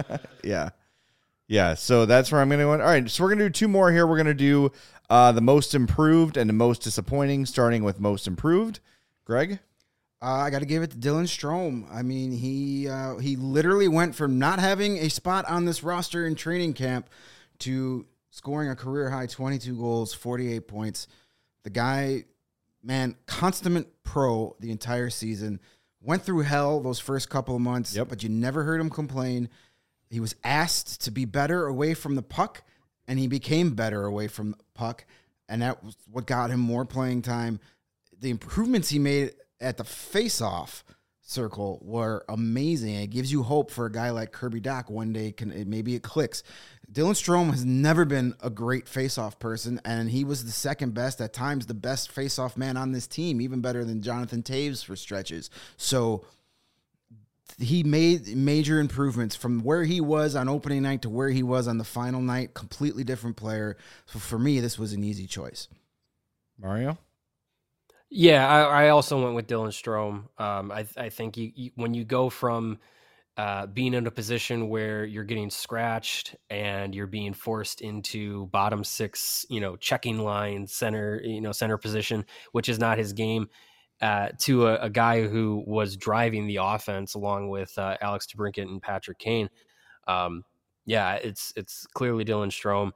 [SPEAKER 1] Yeah, so that's where I'm going to go. All right, so we're going to do 2 more here. We're going to do the most improved and the most disappointing, starting with most improved. Greg?
[SPEAKER 3] I got to give it to Dylan Strome. I mean, he literally went from not having a spot on this roster in training camp to scoring a career-high 22 goals, 48 points. The guy, man, consummate pro the entire season. Went through hell those first couple of months, but you never heard him complain. He was asked to be better away from the puck, and he became better away from the puck, and that was what got him more playing time. The improvements he made at the face-off circle were amazing. It gives you hope for a guy like Kirby Dach one day. Maybe it clicks. Dylan Strome has never been a great face-off person, and he was the second best, at times the best face-off man on this team, even better than Jonathan Toews for stretches. So he made major improvements from where he was on opening night to where he was on the final night. Completely different player. So for me, this was an easy choice.
[SPEAKER 1] Mario?
[SPEAKER 2] Yeah, I also went with Dylan Strome. I think when you go from being in a position where you're getting scratched and you're being forced into bottom six, checking line center position, which is not his game, to a guy who was driving the offense along with Alex DeBrincat and Patrick Kane. Yeah, it's clearly Dylan Strome.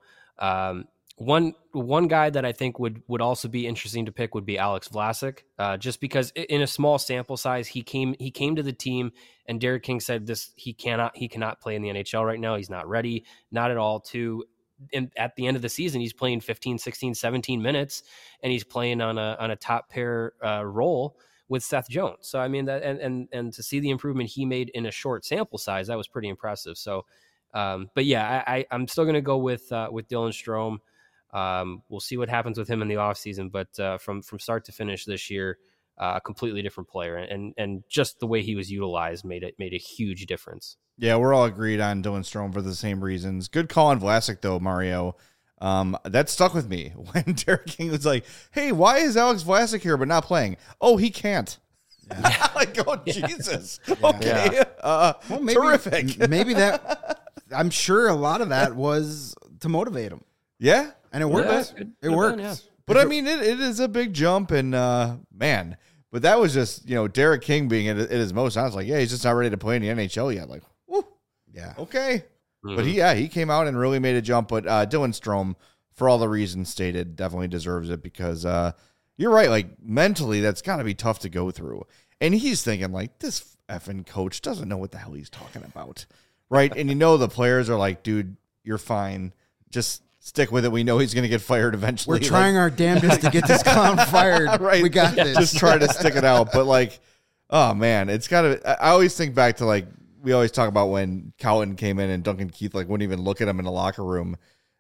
[SPEAKER 2] One guy that I think would also be interesting to pick would be Alex Vlasic, just because in a small sample size, he came to the team and Derek King said he cannot play in the NHL right now. He's not ready, not at all. And at the end of the season, he's playing 15, 16, 17 minutes, and he's playing on a top pair role with Seth Jones. So I mean that, and to see the improvement he made in a short sample size, that was pretty impressive. So, but yeah, I'm still going to go with Dylan Strome. We'll see what happens with him in the offseason, but from start to finish this year, a completely different player, and just the way he was utilized made a huge difference.
[SPEAKER 1] Yeah, we're all agreed on Dylan Strome for the same reasons. Good call on Vlasic though, Mario. That stuck with me when Derek King was like, "Hey, why is Alex Vlasic here but not playing? Oh, he can't." Yeah. Like, oh yeah. Jesus. Yeah. Okay. Yeah. Well, terrific.
[SPEAKER 3] Maybe that. I'm sure a lot of that was to motivate him.
[SPEAKER 1] Yeah.
[SPEAKER 3] And it worked. It worked.
[SPEAKER 1] Yeah. But I mean, it is a big jump, and man, but that was just Derek King being at his most. I was like, yeah, he's just not ready to play in the NHL yet. Like, whoo, yeah, okay. Mm-hmm. But he came out and really made a jump. But Dylan Strome, for all the reasons stated, definitely deserves it because you're right. Like mentally, that's got to be tough to go through. And he's thinking like, this effing coach doesn't know what the hell he's talking about, right? And the players are like, dude, you're fine. Just stick with it. We know he's going to get fired eventually.
[SPEAKER 3] We're trying our damnedest to get this clown fired.
[SPEAKER 1] Right.
[SPEAKER 3] We got this.
[SPEAKER 1] Just try to stick it out. But like, oh man, it's got to. I always think back to like we always talk about when Cowton came in and Duncan Keith like wouldn't even look at him in the locker room.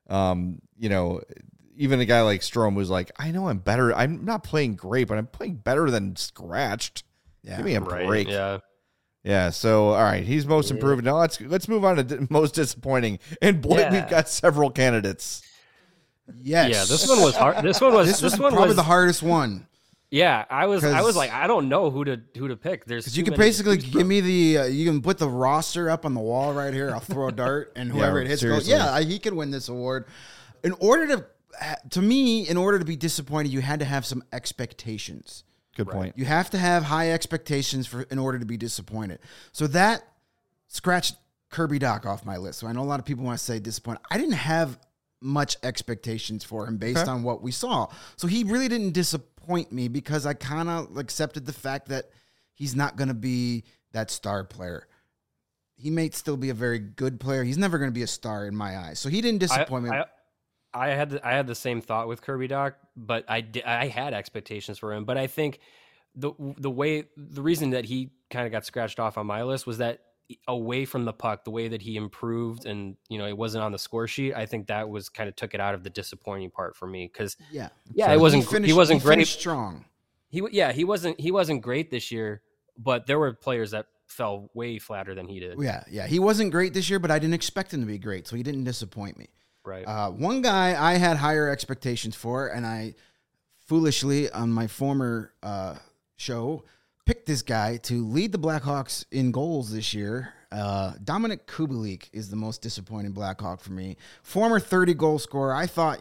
[SPEAKER 1] Even a guy like Strome was like, I know I'm better. I'm not playing great, but I'm playing better than scratched. Yeah, give me a break.
[SPEAKER 2] Yeah.
[SPEAKER 1] Yeah, so all right, he's most improved. Now let's move on to most disappointing. And boy, we've got several candidates.
[SPEAKER 3] Yes.
[SPEAKER 2] Yeah, this one was hard. This one was
[SPEAKER 3] probably the hardest one.
[SPEAKER 2] Yeah, I was like, I don't know who to pick. There's
[SPEAKER 3] you can basically give me you can put the roster up on the wall right here. I'll throw a dart, and whoever it hits goes. Yeah, he can win this award. In order to be disappointed, you had to have some expectations.
[SPEAKER 1] Good point.
[SPEAKER 3] You have to have high expectations in order to be disappointed. So that scratched Kirby Dach off my list. So I know a lot of people want to say disappointed. I didn't have much expectations for him based on what we saw. So he really didn't disappoint me because I kind of accepted the fact that he's not going to be that star player. He may still be a very good player. He's never going to be a star in my eyes. So he didn't disappoint me.
[SPEAKER 2] I had the same thought with Kirby Dach, but I had expectations for him. But I think the reason that he kind of got scratched off on my list was that away from the puck, the way that he improved, and it wasn't on the score sheet. I think that was kind of took it out of the disappointing part for me because it wasn't he wasn't great.
[SPEAKER 3] Strong.
[SPEAKER 2] He wasn't great this year, but there were players that fell way flatter than he did.
[SPEAKER 3] Yeah, he wasn't great this year, but I didn't expect him to be great, so he didn't disappoint me.
[SPEAKER 2] Right.
[SPEAKER 3] One guy I had higher expectations for, and I foolishly on my former show picked this guy to lead the Blackhawks in goals this year. Dominik Kubalik is the most disappointing Blackhawk for me. Former 30-goal scorer. I thought,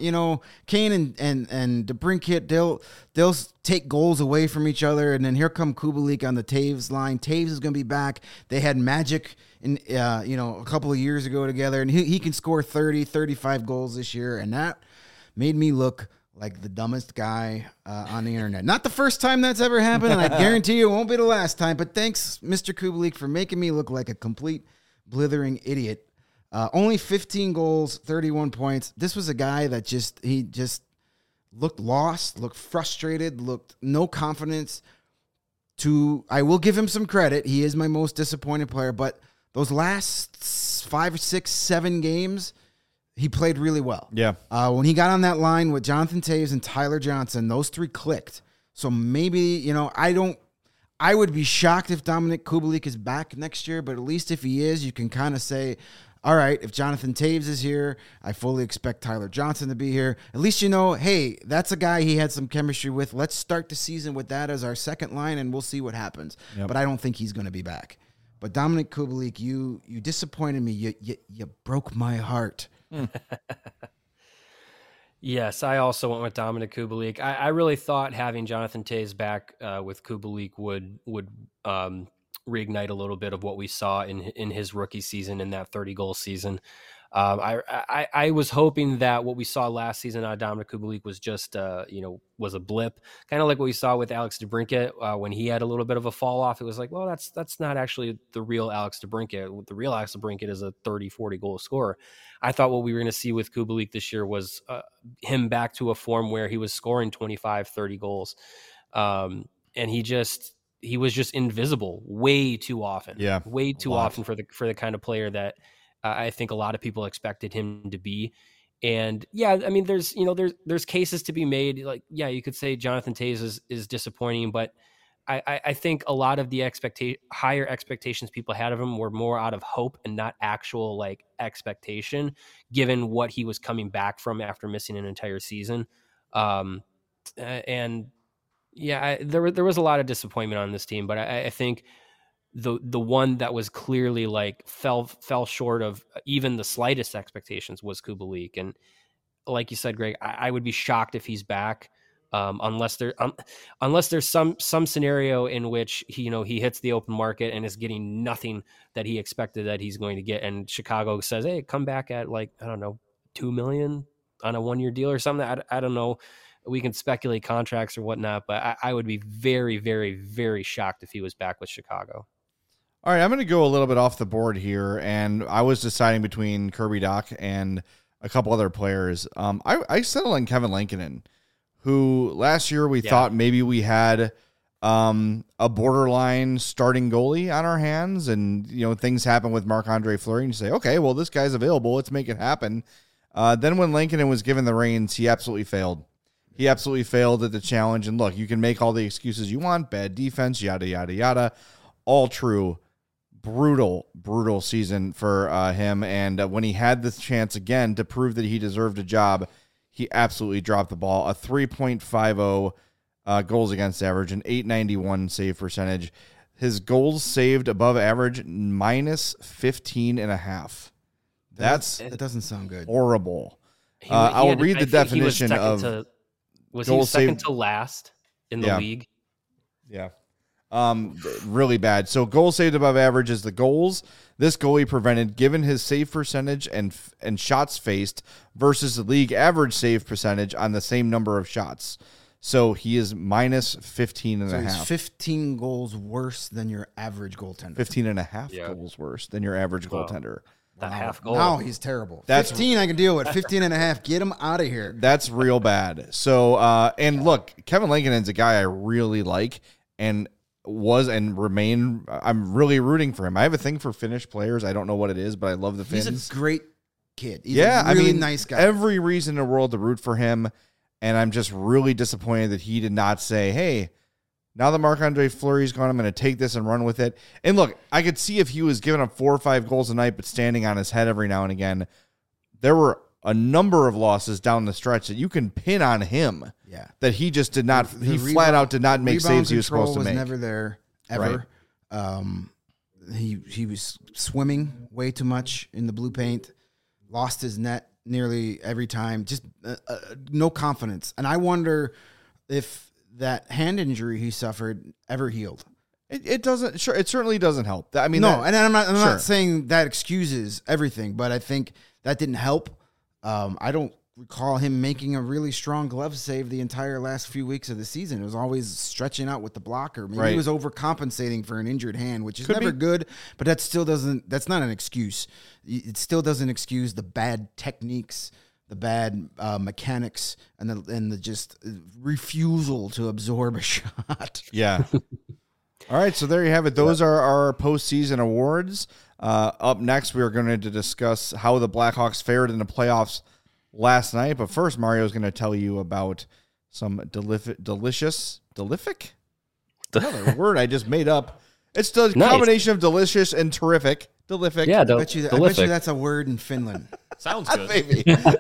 [SPEAKER 3] Kane and DeBrincat, they'll take goals away from each other, and then here come Kubalik on the Taves line. Taves is going to be back. They had magic in a couple of years ago together, and he can score 30, 35 goals this year, and that made me look like the dumbest guy on the internet. Not the first time that's ever happened, and I guarantee you it won't be the last time, but thanks, Mr. Kubalik, for making me look like a complete blithering idiot. Only 15 goals, 31 points. This was a guy that just looked lost, looked frustrated, looked no confidence. I will give him some credit. He is my most disappointed player, but those last 5, 6, 7 games, he played really well.
[SPEAKER 1] Yeah.
[SPEAKER 3] When he got on that line with Jonathan Taves and Tyler Johnson, those three clicked. So maybe, I would be shocked if Dominik Kubalik is back next year, but at least if he is, you can kind of say, all right, if Jonathan Taves is here, I fully expect Tyler Johnson to be here. At least hey, that's a guy he had some chemistry with. Let's start the season with that as our second line, and we'll see what happens. Yep. But I don't think he's going to be back. But Dominik Kubalik, you disappointed me. You broke my heart.
[SPEAKER 2] Yes, I also went with Dominik Kubalik. I really thought having Jonathan Toews back with Kubalik would reignite a little bit of what we saw in his rookie season, in that 30-goal season. I was hoping that what we saw last season out of Dominik Kubalik was just was a blip, kind of like what we saw with Alex DeBrincat when he had a little bit of a fall off. It was like, well, that's not actually the real Alex DeBrincat. The real Alex DeBrincat is a 30-40 goal scorer. I thought what we were going to see with Kubalik this year was him back to a form where he was scoring 25, 30 goals. And he was just invisible way too often.
[SPEAKER 1] Yeah,
[SPEAKER 2] way too often for the kind of player that I think a lot of people expected him to be. And yeah, I mean, there's cases to be made. Like, yeah, you could say Jonathan Toews is disappointing, but I think a lot of the higher expectations people had of him were more out of hope and not actual expectation, given what he was coming back from after missing an entire season. And yeah, there was a lot of disappointment on this team, but I think the one that was clearly fell short of even the slightest expectations was Kubalik. And like you said, Greg, I would be shocked if he's back, unless there's some scenario in which he hits the open market and is getting nothing that he expected that he's going to get, and Chicago says, hey, come back at I don't know, $2 million on a 1-year deal or something. I don't know. We can speculate contracts or whatnot, but I would be very, very, very shocked if he was back with Chicago.
[SPEAKER 1] All right, I'm going to go a little bit off the board here, and I was deciding between Kirby Dach and a couple other players. I settled on Kevin Lankinen, who last year we thought maybe we had a borderline starting goalie on our hands, and things happen with Marc-Andre Fleury, and you say, okay, well, this guy's available, let's make it happen. Then when Lankinen was given the reins, he absolutely failed. He absolutely failed at the challenge, and look, you can make all the excuses you want, bad defense, yada, yada, yada, all true. Brutal season for him. And when he had this chance again to prove that he deserved a job, he absolutely dropped the ball. A 3.50 goals against average, an .891 save percentage. His goals saved above average, minus 15.5. That
[SPEAKER 3] doesn't sound good.
[SPEAKER 1] Horrible. I'll read the definition of.
[SPEAKER 2] Was he second to last in the league?
[SPEAKER 1] Yeah. Really bad. So goals saved above average is the goals this goalie prevented given his save percentage and shots faced versus the league average save percentage on the same number of shots. So he is minus 15.5. So he's
[SPEAKER 3] 15 goals worse than your average goaltender.
[SPEAKER 1] 15.5 goals worse than your average goaltender.
[SPEAKER 2] That half goal.
[SPEAKER 3] Now he's terrible. 15 I can deal with. 15.5. Get him out of here.
[SPEAKER 1] That's real bad. So, and look, Kevin Lankinen's a guy I really like and was and remain. I'm really rooting for him. I have a thing for Finnish players. I don't know what it is, but I love the Finns.
[SPEAKER 3] He's a great kid. He's a really nice guy.
[SPEAKER 1] Every reason in the world to root for him, and I'm just really disappointed that he did not say, hey, now that Marc-Andre Fleury's gone, I'm going to take this and run with it. And look, I could see if he was giving up 4 or 5 goals a night but standing on his head every now and again, there were a number of losses down the stretch that you can pin on him.
[SPEAKER 3] Yeah.
[SPEAKER 1] That he just did not, he flat out did not make saves he was supposed to make.
[SPEAKER 3] Was never there, ever. Right. He was swimming way too much in the blue paint, lost his net nearly every time, just no confidence. And I wonder if that hand injury he suffered ever healed.
[SPEAKER 1] It doesn't, sure, it certainly doesn't help. I mean,
[SPEAKER 3] no, and I'm not saying that excuses everything, but I think that didn't help. I don't recall him making a really strong glove save the entire last few weeks of the season. It was always stretching out with the blocker. Maybe he was overcompensating for an injured hand, which is never good, but that still doesn't, that's not an excuse. It still doesn't excuse the bad techniques, the bad mechanics, and the just refusal to absorb a shot.
[SPEAKER 1] Yeah. All right, so there you have it. Those are our postseason awards. Up next, we are going to discuss how the Blackhawks fared in the playoffs last night. But first, Mario is going to tell you about some delicious. Another word I just made up. It's the combination of delicious and terrific. Delific.
[SPEAKER 2] Yeah,
[SPEAKER 3] I bet you
[SPEAKER 2] Delific.
[SPEAKER 3] that's a word in Finland.
[SPEAKER 4] Sounds good.
[SPEAKER 1] Maybe.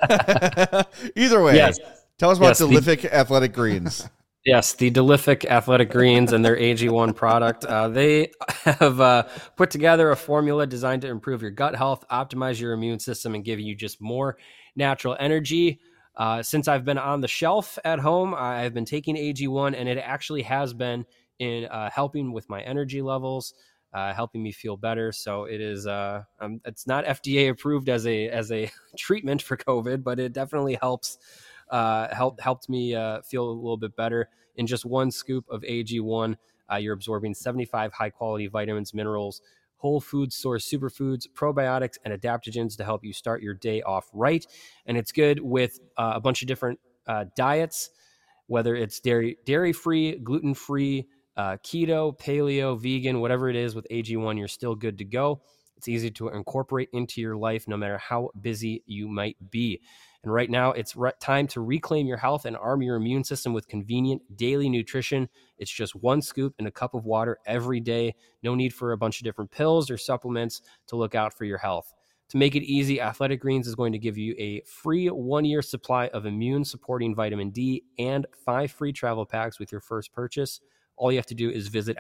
[SPEAKER 1] Either way,
[SPEAKER 2] Yes.
[SPEAKER 1] tell us about
[SPEAKER 2] Yes,
[SPEAKER 1] Delific Athletic Greens.
[SPEAKER 2] Yes, the Delific Athletic Greens and their AG1 product. They have put together a formula designed to improve your gut health, optimize your immune system, and give you just more natural energy. Since I've been on the shelf at home, I've been taking AG1, and it actually has been in helping with my energy levels, helping me feel better. So it is. It's not FDA approved as a treatment for COVID, but it definitely helps. Helped me feel a little bit better. In just one scoop of AG1, you're absorbing 75 high quality vitamins, minerals, whole food source superfoods, probiotics, and adaptogens to help you start your day off right. And it's good with a bunch of different diets, whether it's dairy free, gluten free, keto, paleo, vegan, whatever it is. With AG1, you're still good to go. It's easy to incorporate into your life no matter how busy you might be. And right now, it's time to reclaim your health and arm your immune system with convenient daily nutrition. It's just one scoop in a cup of water every day. No need for a bunch of different pills or supplements to look out for your health. To make it easy, Athletic Greens is going to give you a free 1-year supply of immune-supporting vitamin D and 5 free travel packs with your first purchase. All you have to do is visit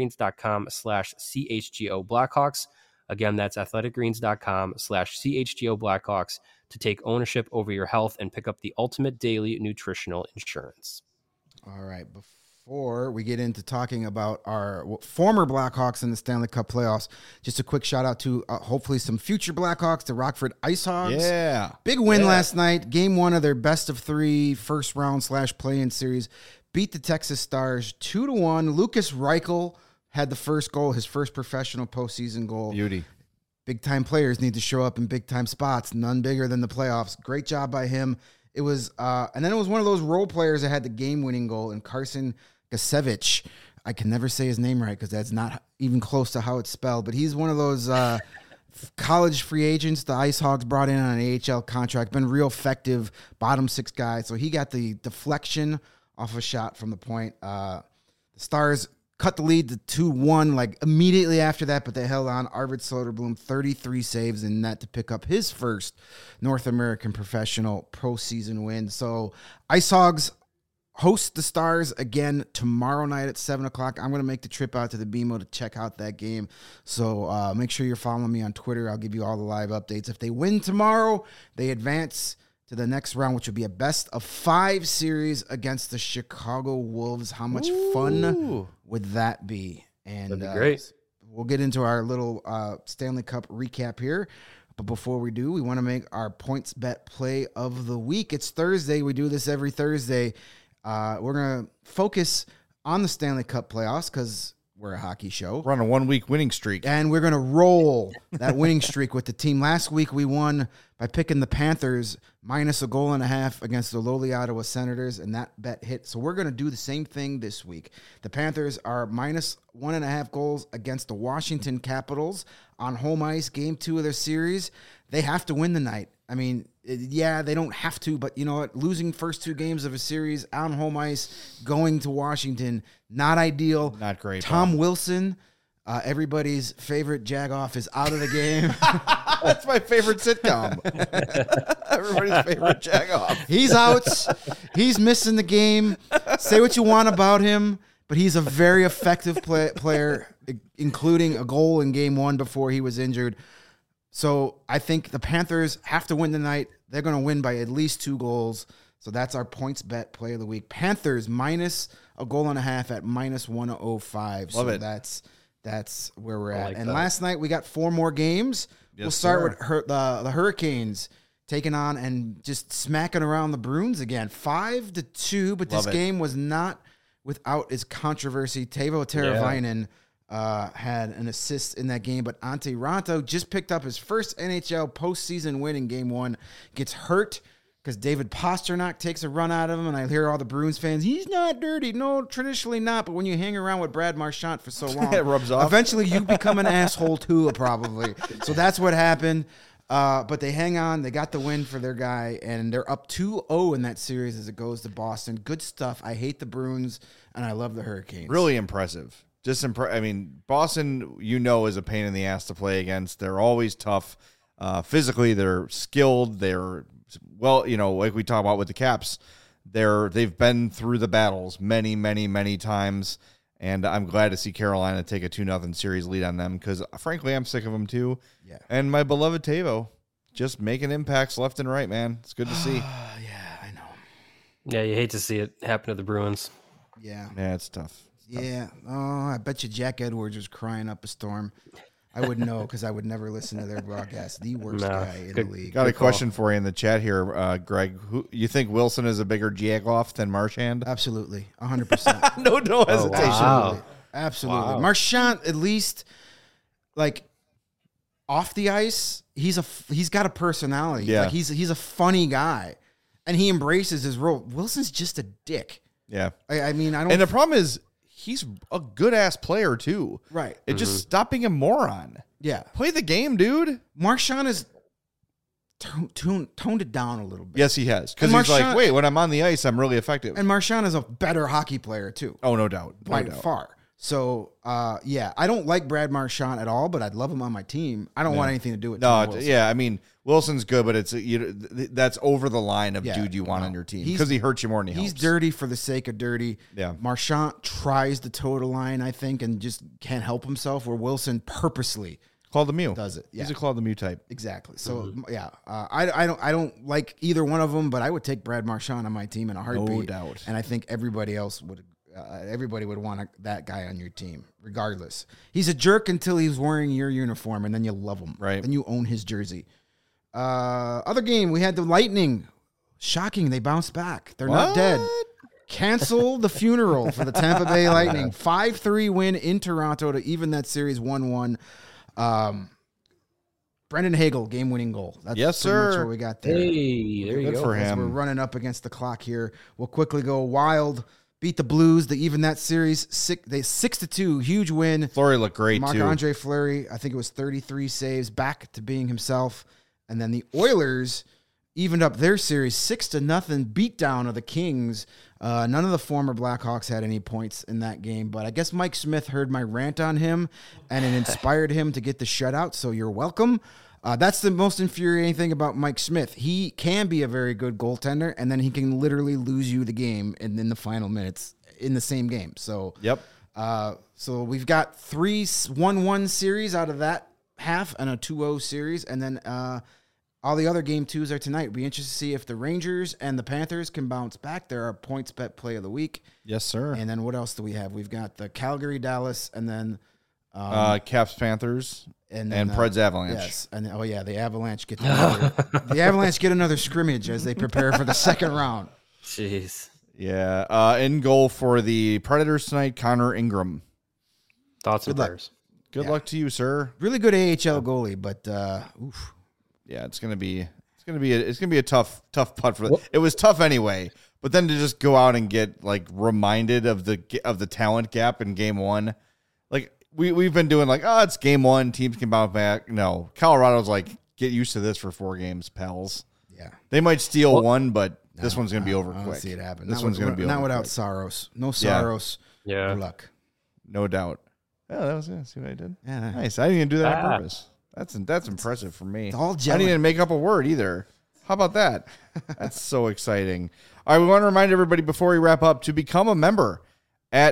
[SPEAKER 2] athleticgreens.com/CHGO Blackhawks. Again, that's athleticgreens.com/CHGO Blackhawks to take ownership over your health and pick up the ultimate daily nutritional insurance.
[SPEAKER 3] All right. Before we get into talking about our former Blackhawks in the Stanley Cup playoffs, just a quick shout out to hopefully some future Blackhawks, the Rockford Ice Hogs.
[SPEAKER 1] Yeah.
[SPEAKER 3] Big win last night. Game 1 of their best of 3 first round / play-in series. Beat the Texas Stars 2-1. Lucas Reichel had the first goal, his first professional postseason goal.
[SPEAKER 1] Beauty.
[SPEAKER 3] Big-time players need to show up in big-time spots, none bigger than the playoffs. Great job by him. It was, and then it was one of those role players that had the game-winning goal, and Carson Gasevich. I can never say his name right because that's not even close to how it's spelled, but he's one of those college free agents the Ice Hogs brought in on an AHL contract, been real effective, bottom 6 guy. So he got the deflection off a shot from the point. The Stars cut the lead to 2-1 like immediately after that, but they held on. Arvid Soderblom, 33 saves in net to pick up his first North American professional postseason win. So Ice Hogs host the Stars again tomorrow night at 7 o'clock. I'm going to make the trip out to the BMO to check out that game. So make sure you're following me on Twitter. I'll give you all the live updates. If they win tomorrow, they advance to the next round, which will be a best-of-5 series against the Chicago Wolves. How much fun would that be? And
[SPEAKER 2] That'd be great.
[SPEAKER 3] We'll get into our little Stanley Cup recap here. But before we do, we want to make our points bet play of the week. It's Thursday. We do this every Thursday. We're going to focus on the Stanley Cup playoffs because we're a hockey show.
[SPEAKER 1] We're on a 1-week winning streak.
[SPEAKER 3] And we're going to roll that winning streak with the team. Last week, we won by picking the Panthers minus -1.5 goals against the lowly Ottawa Senators, and that bet hit. So we're going to do the same thing this week. The Panthers are minus -1.5 goals against the Washington Capitals on home ice, game 2 of their series. They have to win tonight. I mean, yeah, they don't have to, but you know what? Losing first 2 games of a series on home ice, going to Washington, not ideal.
[SPEAKER 1] Not great.
[SPEAKER 3] Tom Wilson, everybody's favorite jagoff, is out of the game.
[SPEAKER 1] That's my favorite sitcom. Everybody's favorite jagoff.
[SPEAKER 3] He's out. He's missing the game. Say what you want about him, but he's a very effective player, including a goal in game 1 before he was injured. So I think the Panthers have to win tonight. They're going to win by at least 2 goals. So that's our points bet play of the week. Panthers minus -1.5 goals at minus -105.
[SPEAKER 1] Love
[SPEAKER 3] so
[SPEAKER 1] it.
[SPEAKER 3] that's where we're at.
[SPEAKER 2] like
[SPEAKER 3] And
[SPEAKER 2] that.
[SPEAKER 3] last night we got 4 more games.
[SPEAKER 1] Yes,
[SPEAKER 3] we'll start
[SPEAKER 1] sir.
[SPEAKER 3] with the Hurricanes taking on and just smacking around the Bruins again. 5-2, but this
[SPEAKER 1] Love it.
[SPEAKER 3] game was not without its controversy. Teuvo Teravainen had an assist in that game, but Antti Raanta just picked up his first NHL postseason win in game 1. Gets hurt because David Pastrnak takes a run out of him, and I hear all the Bruins fans, he's not dirty. No, traditionally not, but when you hang around with Brad Marchand for so long,
[SPEAKER 1] It rubs off.
[SPEAKER 3] Eventually you become an asshole too, probably. So that's what happened. But they hang on. They got the win for their guy, and they're up 2-0 in that series as it goes to Boston. Good stuff. I hate the Bruins, and I love the Hurricanes.
[SPEAKER 1] Really impressive. I mean, Boston, is a pain in the ass to play against. They're always tough. Physically, they're skilled. They're like we talk about with the Caps, they've been through the battles many, many, many times. And I'm glad to see Carolina take a 2-0 series lead on them because, frankly, I'm sick of them too.
[SPEAKER 3] Yeah.
[SPEAKER 1] And my beloved Tavo just making impacts left and right, man. It's good to see.
[SPEAKER 3] Yeah, I know.
[SPEAKER 2] Yeah, you hate to see it happen to the Bruins.
[SPEAKER 3] Yeah.
[SPEAKER 1] Yeah, it's tough.
[SPEAKER 3] Yeah. Oh, I bet you Jack Edwards was crying up a storm. I wouldn't know because I would never listen to their broadcast. The worst guy in the league.
[SPEAKER 1] Got a question for you in the chat here, Greg. Who you think Wilson is a bigger Jagoff than Marchand?
[SPEAKER 3] Absolutely. 100%.
[SPEAKER 1] No hesitation.
[SPEAKER 2] Wow.
[SPEAKER 3] Absolutely.
[SPEAKER 2] Wow.
[SPEAKER 3] Marchand, at least, like, off the ice, he's got a personality.
[SPEAKER 1] Yeah.
[SPEAKER 3] Like, he's a funny guy, and he embraces his role. Wilson's just a dick.
[SPEAKER 1] Yeah.
[SPEAKER 3] I mean, I don't.
[SPEAKER 1] And the problem is he's a good ass player too.
[SPEAKER 3] Right.
[SPEAKER 1] It just stop being a moron.
[SPEAKER 3] Yeah.
[SPEAKER 1] Play the game, dude.
[SPEAKER 3] Marchand has toned it down a little bit.
[SPEAKER 1] Yes, he has. Because
[SPEAKER 3] And
[SPEAKER 1] he's like,
[SPEAKER 3] Marchand-
[SPEAKER 1] wait, when I'm on the ice, I'm really effective.
[SPEAKER 3] And Marchand is a better hockey player too.
[SPEAKER 1] Oh, no doubt. No
[SPEAKER 3] By
[SPEAKER 1] doubt.
[SPEAKER 3] far. So, yeah, I don't like Brad Marchand at all, but I'd love him on my team. I don't want anything to do with Tom Wilson.
[SPEAKER 1] Yeah, I mean, Wilson's good, but it's that's over the line of
[SPEAKER 3] Yeah,
[SPEAKER 1] dude you want
[SPEAKER 3] no.
[SPEAKER 1] on your team
[SPEAKER 3] He's-
[SPEAKER 1] because he hurts you more than he
[SPEAKER 3] He's
[SPEAKER 1] helps.
[SPEAKER 3] dirty for the sake of dirty.
[SPEAKER 1] Yeah.
[SPEAKER 3] Marchand tries to toe the line, I think, and just can't help himself, where Wilson purposely
[SPEAKER 1] Claude Lemieux
[SPEAKER 3] does it. Yeah.
[SPEAKER 1] He's a Claude Lemieux type.
[SPEAKER 3] Exactly. So yeah, I don't like either one of them, but I would take Brad Marchand on my team in a heartbeat.
[SPEAKER 1] No doubt.
[SPEAKER 3] And I think everybody else would. Everybody would want that guy on your team, regardless. He's a jerk until he's wearing your uniform, and then you love him.
[SPEAKER 1] Right.
[SPEAKER 3] Then you own his jersey. Other game, we had the Lightning. Shocking, they bounced back. They're not dead. Cancel the funeral for the Tampa Bay Lightning. 5-3 win in Toronto to even that series 1-1. Brendan Hagel, game-winning goal. That's
[SPEAKER 1] Yes,
[SPEAKER 3] pretty much
[SPEAKER 1] sir.
[SPEAKER 3] what we got there.
[SPEAKER 2] Hey, there you
[SPEAKER 1] Good
[SPEAKER 2] go.
[SPEAKER 1] for
[SPEAKER 3] As
[SPEAKER 1] him.
[SPEAKER 3] we're running up against the clock here. We'll quickly go Wild. Beat the Blues. They even that series 6-2. Huge win.
[SPEAKER 1] Fleury looked great too.
[SPEAKER 3] Marc-Andre Fleury, I think it was 33 saves, back to being himself. And then the Oilers evened up their series 6-0 beatdown of the Kings. None of the former Blackhawks had any points in that game, but I guess Mike Smith heard my rant on him, and it inspired him to get the shutout, so you're welcome. That's the most infuriating thing about Mike Smith. He can be a very good goaltender, and then he can literally lose you the game in the final minutes in the same game. So,
[SPEAKER 1] Yep.
[SPEAKER 3] so we've got 3 1-1 series out of that half and a 2-0 series, and then all the other game twos are tonight. We'll be interested to see if the Rangers and the Panthers can bounce back. There are points bet play of the week.
[SPEAKER 1] Yes, sir.
[SPEAKER 3] And then what else do we have? We've got the Calgary Dallas, and then
[SPEAKER 1] Caps Panthers
[SPEAKER 3] and
[SPEAKER 1] Preds Avalanche.
[SPEAKER 3] Yes, and the Avalanche get another scrimmage as they prepare for the second round.
[SPEAKER 2] Jeez.
[SPEAKER 1] Yeah. In goal for the Predators tonight, Connor Ingram.
[SPEAKER 2] Thoughts and
[SPEAKER 3] Good luck.
[SPEAKER 2] prayers.
[SPEAKER 1] Good
[SPEAKER 3] Yeah.
[SPEAKER 1] luck to you, sir.
[SPEAKER 3] Really good AHL goalie, but oof.
[SPEAKER 1] Yeah, it's gonna be a tough putt for it was tough anyway, but then to just go out and get like reminded of the talent gap in game one, like we've been doing like, oh, it's game one, teams can bounce back. No, Colorado's like, get used to this for 4 games, pals.
[SPEAKER 3] Yeah.
[SPEAKER 1] They might steal one, but this one's gonna be over
[SPEAKER 3] I don't
[SPEAKER 1] quick.
[SPEAKER 3] see it happen.
[SPEAKER 1] This
[SPEAKER 3] Not
[SPEAKER 1] one's
[SPEAKER 3] with-
[SPEAKER 1] gonna be
[SPEAKER 3] not
[SPEAKER 1] over
[SPEAKER 3] without
[SPEAKER 1] quick.
[SPEAKER 3] Saros. No
[SPEAKER 1] Yeah.
[SPEAKER 3] Saros.
[SPEAKER 2] Yeah.
[SPEAKER 3] Good luck.
[SPEAKER 1] No doubt. Oh, that was see what I did.
[SPEAKER 3] Yeah.
[SPEAKER 1] Nice. I didn't even do that on
[SPEAKER 2] Ah.
[SPEAKER 1] purpose. That's impressive for me.
[SPEAKER 3] It's all
[SPEAKER 1] I
[SPEAKER 3] gelling.
[SPEAKER 1] didn't even make up a word either. How about that? That's so exciting. All right, we want to remind everybody before we wrap up to become a member at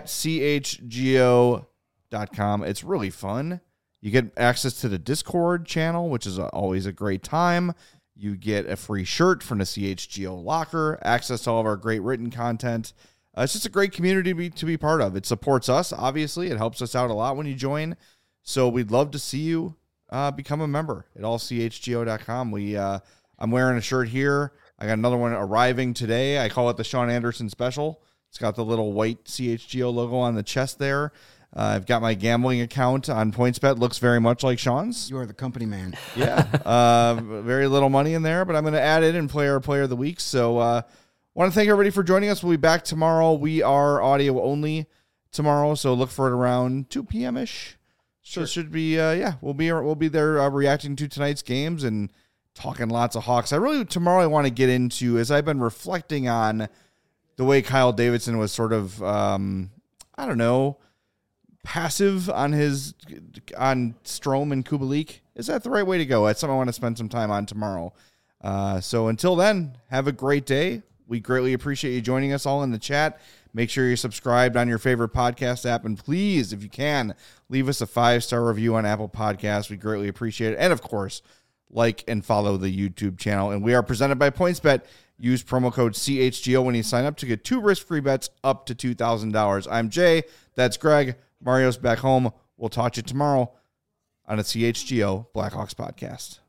[SPEAKER 1] chgo.com. It's really fun. You get access to the Discord channel, which is always a great time. You get a free shirt from the CHGO locker, access to all of our great written content. It's just a great community to be part of. It supports us, obviously. It helps us out a lot when you join. So we'd love to see you become a member at allchgo.com. I'm wearing a shirt here. I got another one arriving today. I call it the Sean Anderson special. It's got the little white CHGO logo on the chest there. I've got my gambling account on PointsBet. Looks very much like Sean's.
[SPEAKER 3] You are the company man.
[SPEAKER 1] Yeah. Very little money in there, but I'm going to add it and play our player of the week. So want to thank everybody for joining us. We'll be back tomorrow. We are audio only tomorrow, so look for it around 2 p.m.-ish. So it should be, we'll be there reacting to tonight's games and talking lots of Hawks. Tomorrow I want to get into, as I've been reflecting on the way Kyle Davidson was sort of, passive on Strome and Kubalik? Is that the right way to go? That's something I want to spend some time on tomorrow. So until then, have a great day. We greatly appreciate you joining us all in the chat. Make sure you're subscribed on your favorite podcast app. And please, if you can, leave us a 5-star review on Apple Podcasts. We greatly appreciate it. And of course, like and follow the YouTube channel. And we are presented by PointsBet. Use promo code CHGO when you sign up to get 2 risk-free bets up to $2,000. I'm Jay. That's Greg. Mario's back home. We'll talk to you tomorrow on a CHGO Blackhawks podcast.